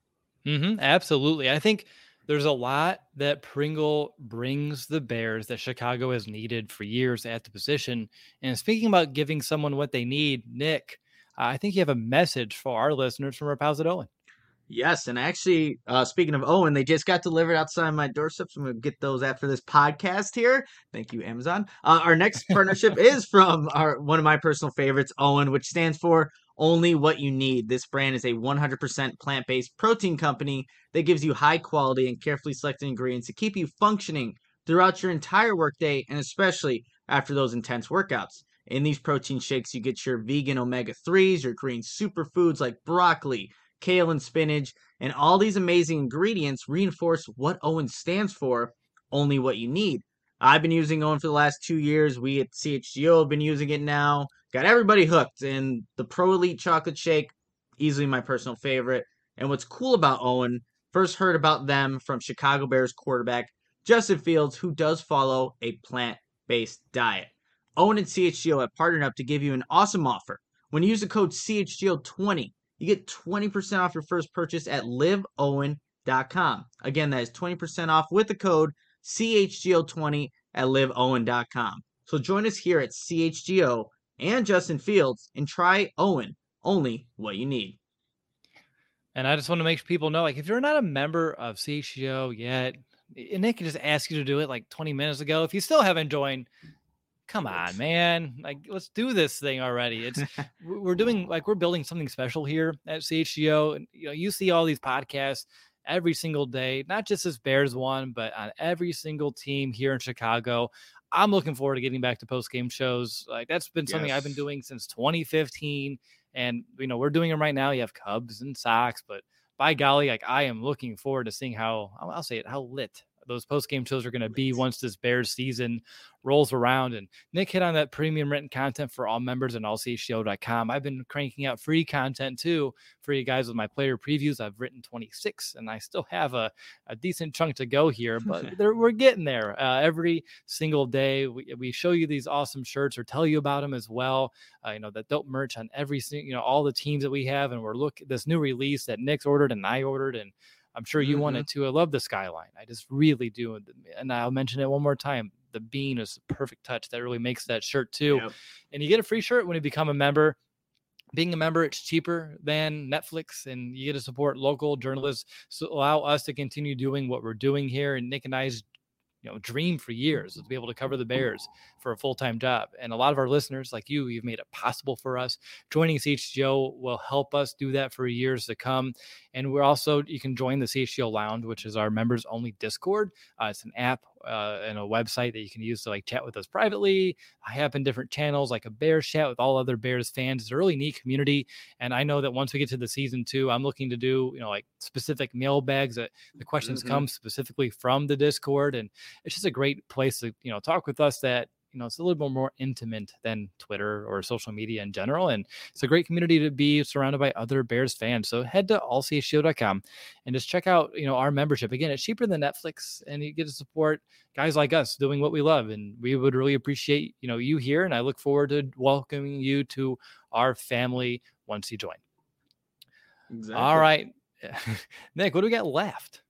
Absolutely. I think there's a lot that Pringle brings the Bears that Chicago has needed for years at the position. And speaking about giving someone what they need, Nick, I think you have a message for our listeners from our pals at Owen. Yes, and actually, speaking of Owen, they just got delivered outside my doorstep, so I'm going to get those after this podcast here. Thank you, Amazon. Our next partnership is from one of my personal favorites, Owen, which stands for Only What You Need. This brand is a 100% plant-based protein company that gives you high-quality and carefully selected ingredients to keep you functioning throughout your entire workday, and especially after those intense workouts. In these protein shakes, you get your vegan omega-3s, your green superfoods like broccoli, kale, and spinach, and all these amazing ingredients reinforce what Owen stands for, only what you need. I've been using Owen for the last 2 years. We at CHGO have been using it now. Got everybody hooked. And the Pro Elite Chocolate Shake, easily my personal favorite. And what's cool about Owen, first heard about them from Chicago Bears quarterback Justin Fields, who does follow a plant-based diet. Owen and CHGO have partnered up to give you an awesome offer. When you use the code CHGO20, you get 20% off your first purchase at liveowen.com. Again, that is 20% off with the code CHGO20 at liveowen.com. So join us here at CHGO and Justin Fields and try Owen, only what you need. And I just want to make people know, like, if you're not a member of CHGO yet, and Nick just asked you to do it like 20 minutes ago, if you still haven't joined, come on, man. Like, let's do this thing already. It's we're building something special here at CHGO. And you see all these podcasts every single day, not just this Bears one, but on every single team here in Chicago. I'm looking forward to getting back to post-game shows. Like, that's been something I've been doing since 2015. And, we're doing them right now. You have Cubs and Sox, but by golly, like, I am looking forward to seeing how lit those post-game shows are going to be once this Bears season rolls around. And Nick hit on that premium written content for all members and allchgo.com. I've been cranking out free content too for you guys with my player previews. I've written 26 and I still have a decent chunk to go here, but we're getting there. Every single day we show you these awesome shirts or tell you about them as well. That dope merch on every single, all the teams that we have. And we're this new release that Nick's ordered and I ordered, and I'm sure you want it too. I love the skyline. I just really do. And I'll mention it one more time. The bean is a perfect touch that really makes that shirt too. Yep. And you get a free shirt when you become a member. Being a member, it's cheaper than Netflix, and you get to support local journalists. So allow us to continue doing what we're doing here. And Nick and I's dream for years is to be able to cover the Bears for a full-time job. And a lot of our listeners like you've made it possible for us. Joining CHGO will help us do that for years to come. And you can join the CHGO Lounge, which is our members only Discord. It's an app and a website that you can use to like chat with us privately. I have in different channels like a Bears chat with all other Bears fans. It's a really neat community. And I know that once we get to the season 2, I'm looking to do, like specific mailbags that the questions come specifically from the Discord. And it's just a great place to, talk with us that, it's a little bit more intimate than Twitter or social media in general. And it's a great community to be surrounded by other Bears fans. So head to allchgo.com and just check out, our membership. Again, it's cheaper than Netflix, and you get to support guys like us doing what we love. And we would really appreciate, you here. And I look forward to welcoming you to our family once you join. Exactly. All right. Nick, what do we got left?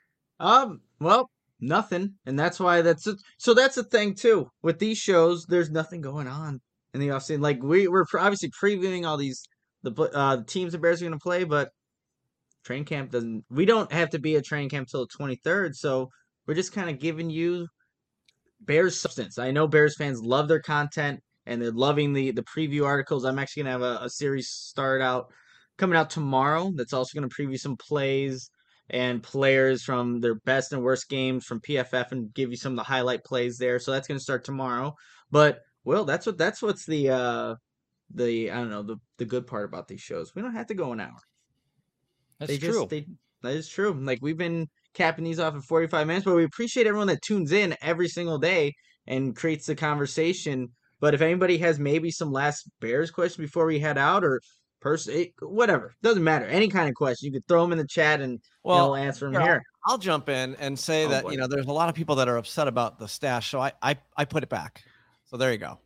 Well, nothing. And that's why so that's the thing too. With these shows, there's nothing going on in the offseason. Like we're obviously previewing all these the teams the Bears are going to play, but training camp we don't have to be at training camp till the 23rd, so we're just kind of giving you Bears substance. I know Bears fans love their content and they're loving the preview articles. I'm actually going to have a series coming out tomorrow that's also going to preview some plays and players from their best and worst games from PFF and give you some of the highlight plays there. So that's going to start tomorrow. But that's what's the I don't know, the good part about these shows. We don't have to go an hour. That's true. That is true. Like we've been capping these off in 45 minutes, but we appreciate everyone that tunes in every single day and creates the conversation. But if anybody has maybe some last Bears question before we head out, or whatever, doesn't matter, any kind of question, you could throw them in the chat and we'll answer them here. I'll jump in and say that there's a lot of people that are upset about the stash, so I put it back. So there you go.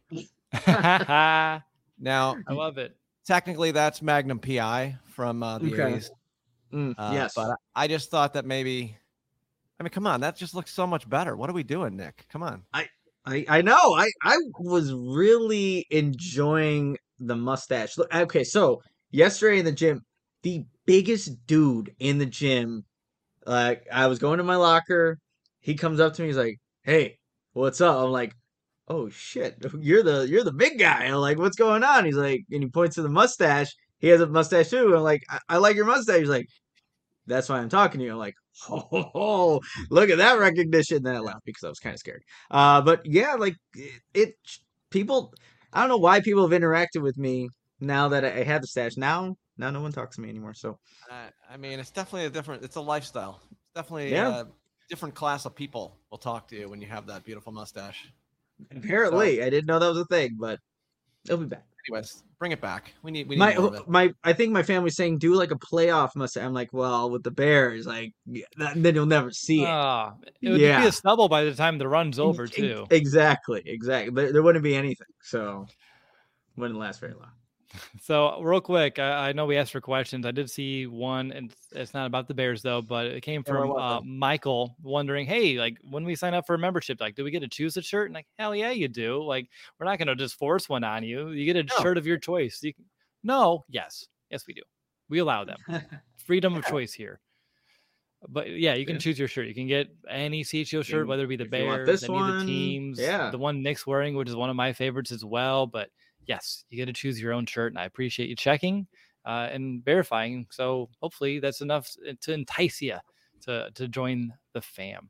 Now I love it. Technically, that's Magnum PI from the 80s. Yes, but I just thought that maybe. I mean, come on, that just looks so much better. What are we doing, Nick? Come on. I know. I was really enjoying the mustache. Look, okay, so yesterday in the gym, the biggest dude in the gym, I was going to my locker. He comes up to me. He's like, "Hey, what's up?" I'm like, "Oh shit, you're the big guy." I'm like, "What's going on?" He's like, and he points to the mustache. He has a mustache too. I'm like, I like your mustache. He's like, "That's why I'm talking to you." I'm like, "Oh, look at that recognition." Then I laughed because I was kind of scared. But yeah, like people, I don't know why people have interacted with me now that I have the stash. Now no one talks to me anymore. So, I mean, it's definitely it's a lifestyle. It's definitely a different class of people will talk to you when you have that beautiful mustache. Apparently, I didn't know that was a thing, but it'll be back. Anyways, bring it back. We need more of it. I think my family's saying do like a playoff mustache. I'm like, well, with the Bears, like then you'll never see it. It would be a stubble by the time the run's over too. Exactly. There wouldn't be anything, so wouldn't last very long. So real quick, I know we asked for questions. I did see one, and it's not about the Bears though, but it came from Michael wondering, hey, like when we sign up for a membership, like do we get to choose a shirt? And like, hell yeah, you do. Like we're not gonna just force one on you. You get a shirt of your choice. Yes, we do. We allow them freedom of choice here. But yeah, you can choose your shirt. You can get any CHO shirt, whether it be the Bears, any of the teams, the one Nick's wearing, which is one of my favorites as well. But yes, you get to choose your own shirt, and I appreciate you checking and verifying. So hopefully that's enough to entice you to join the fam.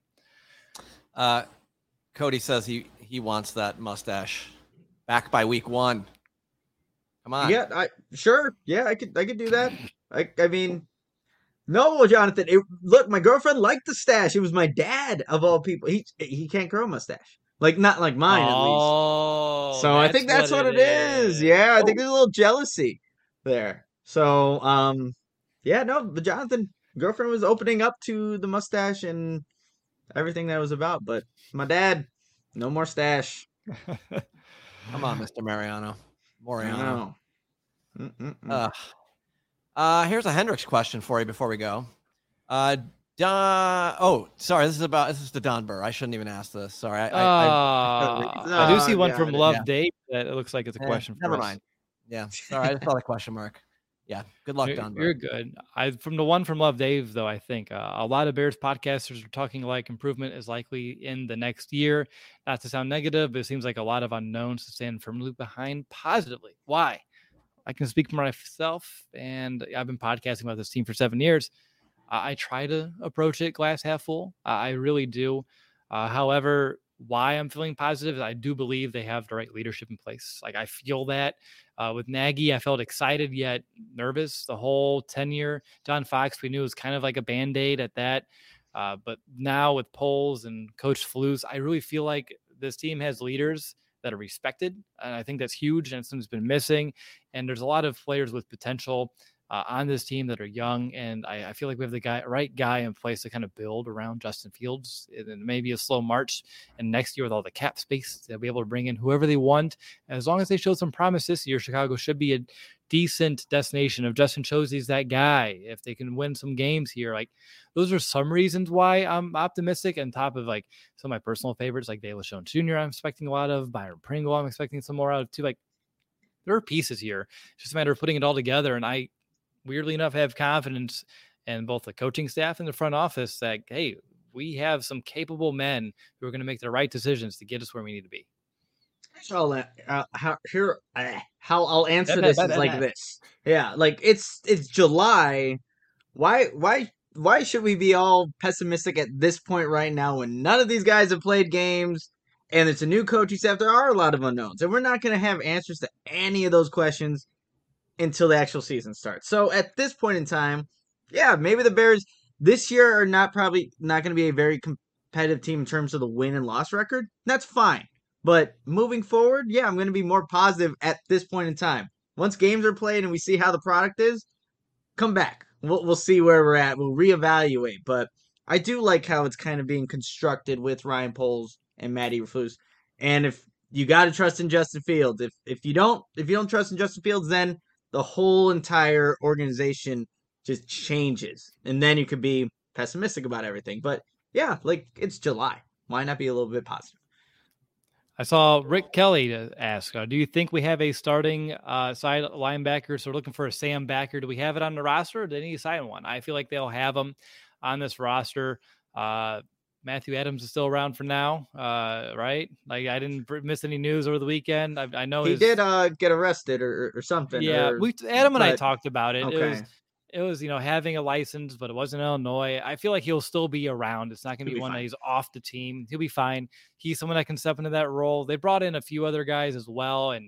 Cody says he wants that mustache back by week 1. Come on. Yeah, sure. Yeah, I could do that. I mean, no, Jonathan. Look, my girlfriend liked the stash. It was my dad of all people. He can't grow a mustache. Like not like mine at least. So I think that's what it is. Yeah, I think there's a little jealousy there. So yeah, no, the Jonathan girlfriend was opening up to the mustache and everything that was about, but my dad, no more stash. Come on, Mr. Mariano. Here's a Hendricks question for you before we go. Sorry, this is the Don Burr. I shouldn't even ask this. Sorry. I do see one from Love Dave that it looks like it's a question for us. Never mind. Yeah, sorry, I just saw the question mark. Yeah, good luck, Don Burr. You're good. From the one from Love Dave, though, I think a lot of Bears podcasters are talking like improvement is likely in the next year. Not to sound negative, but it seems like a lot of unknowns to stand firmly behind positively. Why? I can speak for myself, and I've been podcasting about this team for 7 years. I try to approach it glass half full. I really do. However, why I'm feeling positive is I do believe they have the right leadership in place. Like I feel that with Nagy, I felt excited yet nervous. The whole tenure, John Fox, we knew was kind of like a Band-Aid at that. But now with Poles and Coach Flus, I really feel like this team has leaders that are respected. And I think that's huge. And something's been missing. And there's a lot of players with potential on this team that are young. And I feel like we have the right guy in place to kind of build around Justin Fields. And maybe a slow march. And next year with all the cap space, they'll be able to bring in whoever they want. And as long as they show some promise this year, Chicago should be a decent destination. If Justin shows he's that guy, if they can win some games here, like those are some reasons why I'm optimistic. On top of like some of my personal favorites, like Dale LeShone Jr., I'm expecting a lot of Byron Pringle. I'm expecting some more out of too. Like there are pieces here. It's just a matter of putting it all together. And I, weirdly enough, have confidence in both the coaching staff and the front office that, hey, we have some capable men who are going to make the right decisions to get us where we need to be. So how I'll answer this is like this. Yeah, like it's July. Why should we be all pessimistic at this point right now when none of these guys have played games and it's a new coaching staff? There are a lot of unknowns, and we're not going to have answers to any of those questions until the actual season starts. So at this point in time, yeah, maybe the Bears this year are probably not going to be a very competitive team in terms of the win and loss record. That's fine. But moving forward, yeah, I'm going to be more positive at this point in time. Once games are played and we see how the product is, come back. We'll see where we're at. We'll reevaluate. But I do like how it's kind of being constructed with Ryan Poles and Matt Eberflus. And if you got to trust in Justin Fields, if you don't trust in Justin Fields, then the whole entire organization just changes. And then you could be pessimistic about everything. But yeah, like it's July. Why not be a little bit positive? I saw Rick Kelly ask, do you think we have a starting side linebacker? So we're looking for a Sam Backer. Do we have it on the roster, or do they need to sign one? I feel like they'll have them on this roster. Matthew Adams is still around for now, right? Like I didn't miss any news over the weekend. I know he did get arrested or something. Yeah, Adam and I talked about it. Okay. It was, having a license, but it wasn't Illinois. I feel like he'll still be around. It's not going to be one that he's off the team. He'll be fine. He's someone that can step into that role. They brought in a few other guys as well. And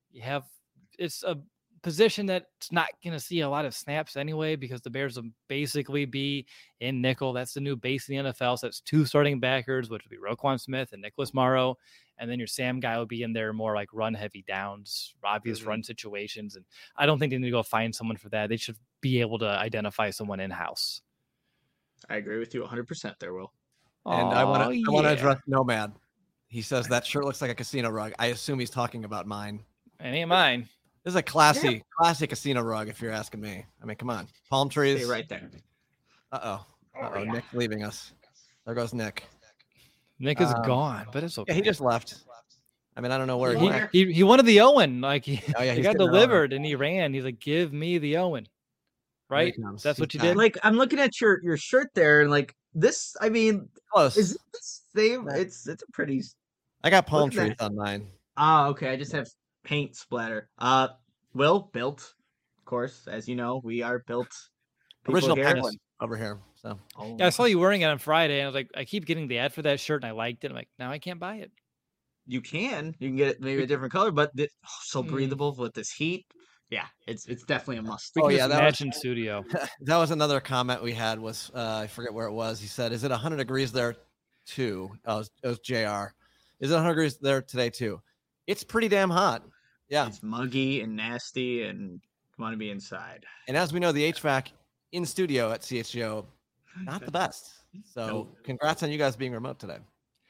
it's a position that's not going to see a lot of snaps anyway, because the Bears will basically be in nickel. That's the new base in the NFL. So that's 2 starting backers, which would be Roquan Smith and Nicholas Morrow. And then your Sam guy will be in there more like run heavy downs, obvious run situations. And I don't think they need to go find someone for that. They should be able to identify someone in-house. I agree with you 100% there, Will. And I want to address Nomad. He says that shirt looks like a casino rug. I assume he's talking about mine. It ain't mine. This is a classy casino rug, if you're asking me. I mean, come on. Palm trees. Stay right there. Uh-oh. Yeah. Nick leaving us. There goes Nick. Nick is gone, but it's okay. Yeah, he just left. I mean, I don't know where he went. he wanted the Owen. Like he got delivered and he ran. He's like, give me the Owen. Right? That's what you did. Like, I'm looking at your shirt there, and like this, I mean, close. Is it the same? It's a pretty. I got palm trees on mine. Okay. I just have paint splatter. Will built, of course, as you know, we are built. Original penguin over here. So yeah, I saw you wearing it on Friday, and I was like, I keep getting the ad for that shirt, and I liked it. I'm like, now I can't buy it. You can get it maybe a different color, but so breathable with this heat. Yeah, it's definitely a must. That was in studio. That was another comment we had. Was I forget where it was. He said, "Is it 100 degrees there too?" Oh, it was JR. Is it 100 degrees there today too? It's pretty damn hot. Yeah, it's muggy and nasty, and want to be inside. And as we know, the HVAC in studio at CHGO, not the best. So congrats on you guys being remote today.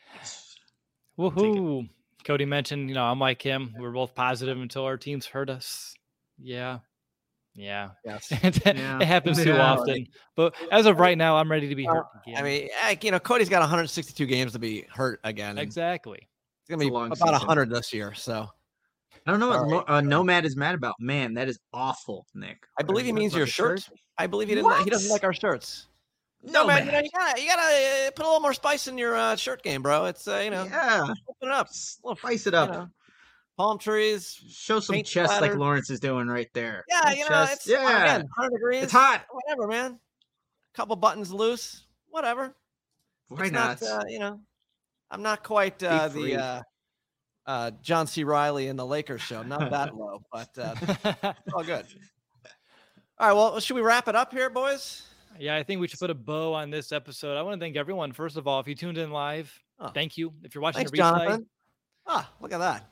Woohoo! Cody mentioned, I'm like him. We're both positive until our teams hurt us. Yeah. Yes. It happens too often. But as of right now, I'm ready to be hurt again. I mean, Cody's got 162 games to be hurt again. Exactly. It's gonna be about 100 this year. So I don't know what Nomad is mad about. Man, that is awful, Nick. I believe he means your shirt. I believe he doesn't like our shirts. No, man, you gotta put a little more spice in your shirt game, bro. It's open it up, spice it up. Palm trees, show some chest like Lawrence is doing right there. Yeah, it's again, 100 degrees. It's hot. Whatever, man. A couple buttons loose, whatever. Why not? I'm not quite the John C. Reilly in the Lakers show. Not that low, but it's all good. All right, well, should we wrap it up here, boys? Yeah, I think we should put a bow on this episode. I want to thank everyone. First of all, if you tuned in live, thank you. If you're watching the replay, Jonathan. Look at that.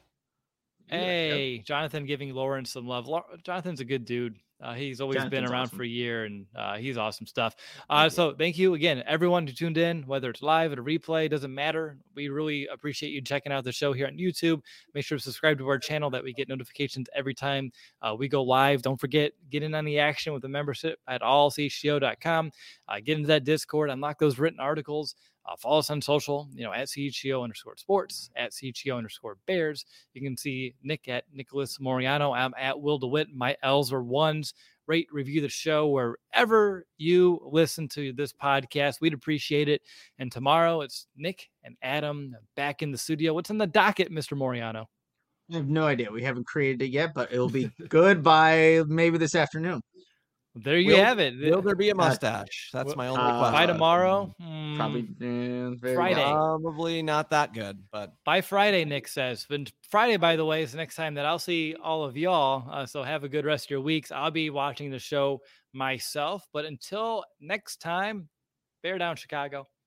Hey, Jonathan giving Lawrence some love. Jonathan's a good dude. He's always been around for a year, and he's awesome stuff. So thank you again, everyone who tuned in, whether it's live or a replay, doesn't matter. We really appreciate you checking out the show here on YouTube. Make sure to subscribe to our channel that we get notifications every time we go live. Don't forget, get in on the action with the membership at allchgo.com. Get into that Discord, unlock those written articles. Follow us on social, at CHGO_sports, at CHGO_bears. You can see Nick at Nicholas Moriano. I'm at Will DeWitt. My L's are ones. Rate, review the show wherever you listen to this podcast. We'd appreciate it. And tomorrow it's Nick and Adam back in the studio. What's in the docket, Mr. Moriano? I have no idea. We haven't created it yet, but it'll be good by maybe this afternoon. There you have it. Will there be a mustache? That's my only question. By tomorrow? Probably Friday. Probably not that good, but by Friday, Nick says. But Friday, by the way, is the next time that I'll see all of y'all. So have a good rest of your weeks. I'll be watching the show myself. But until next time, bear down, Chicago.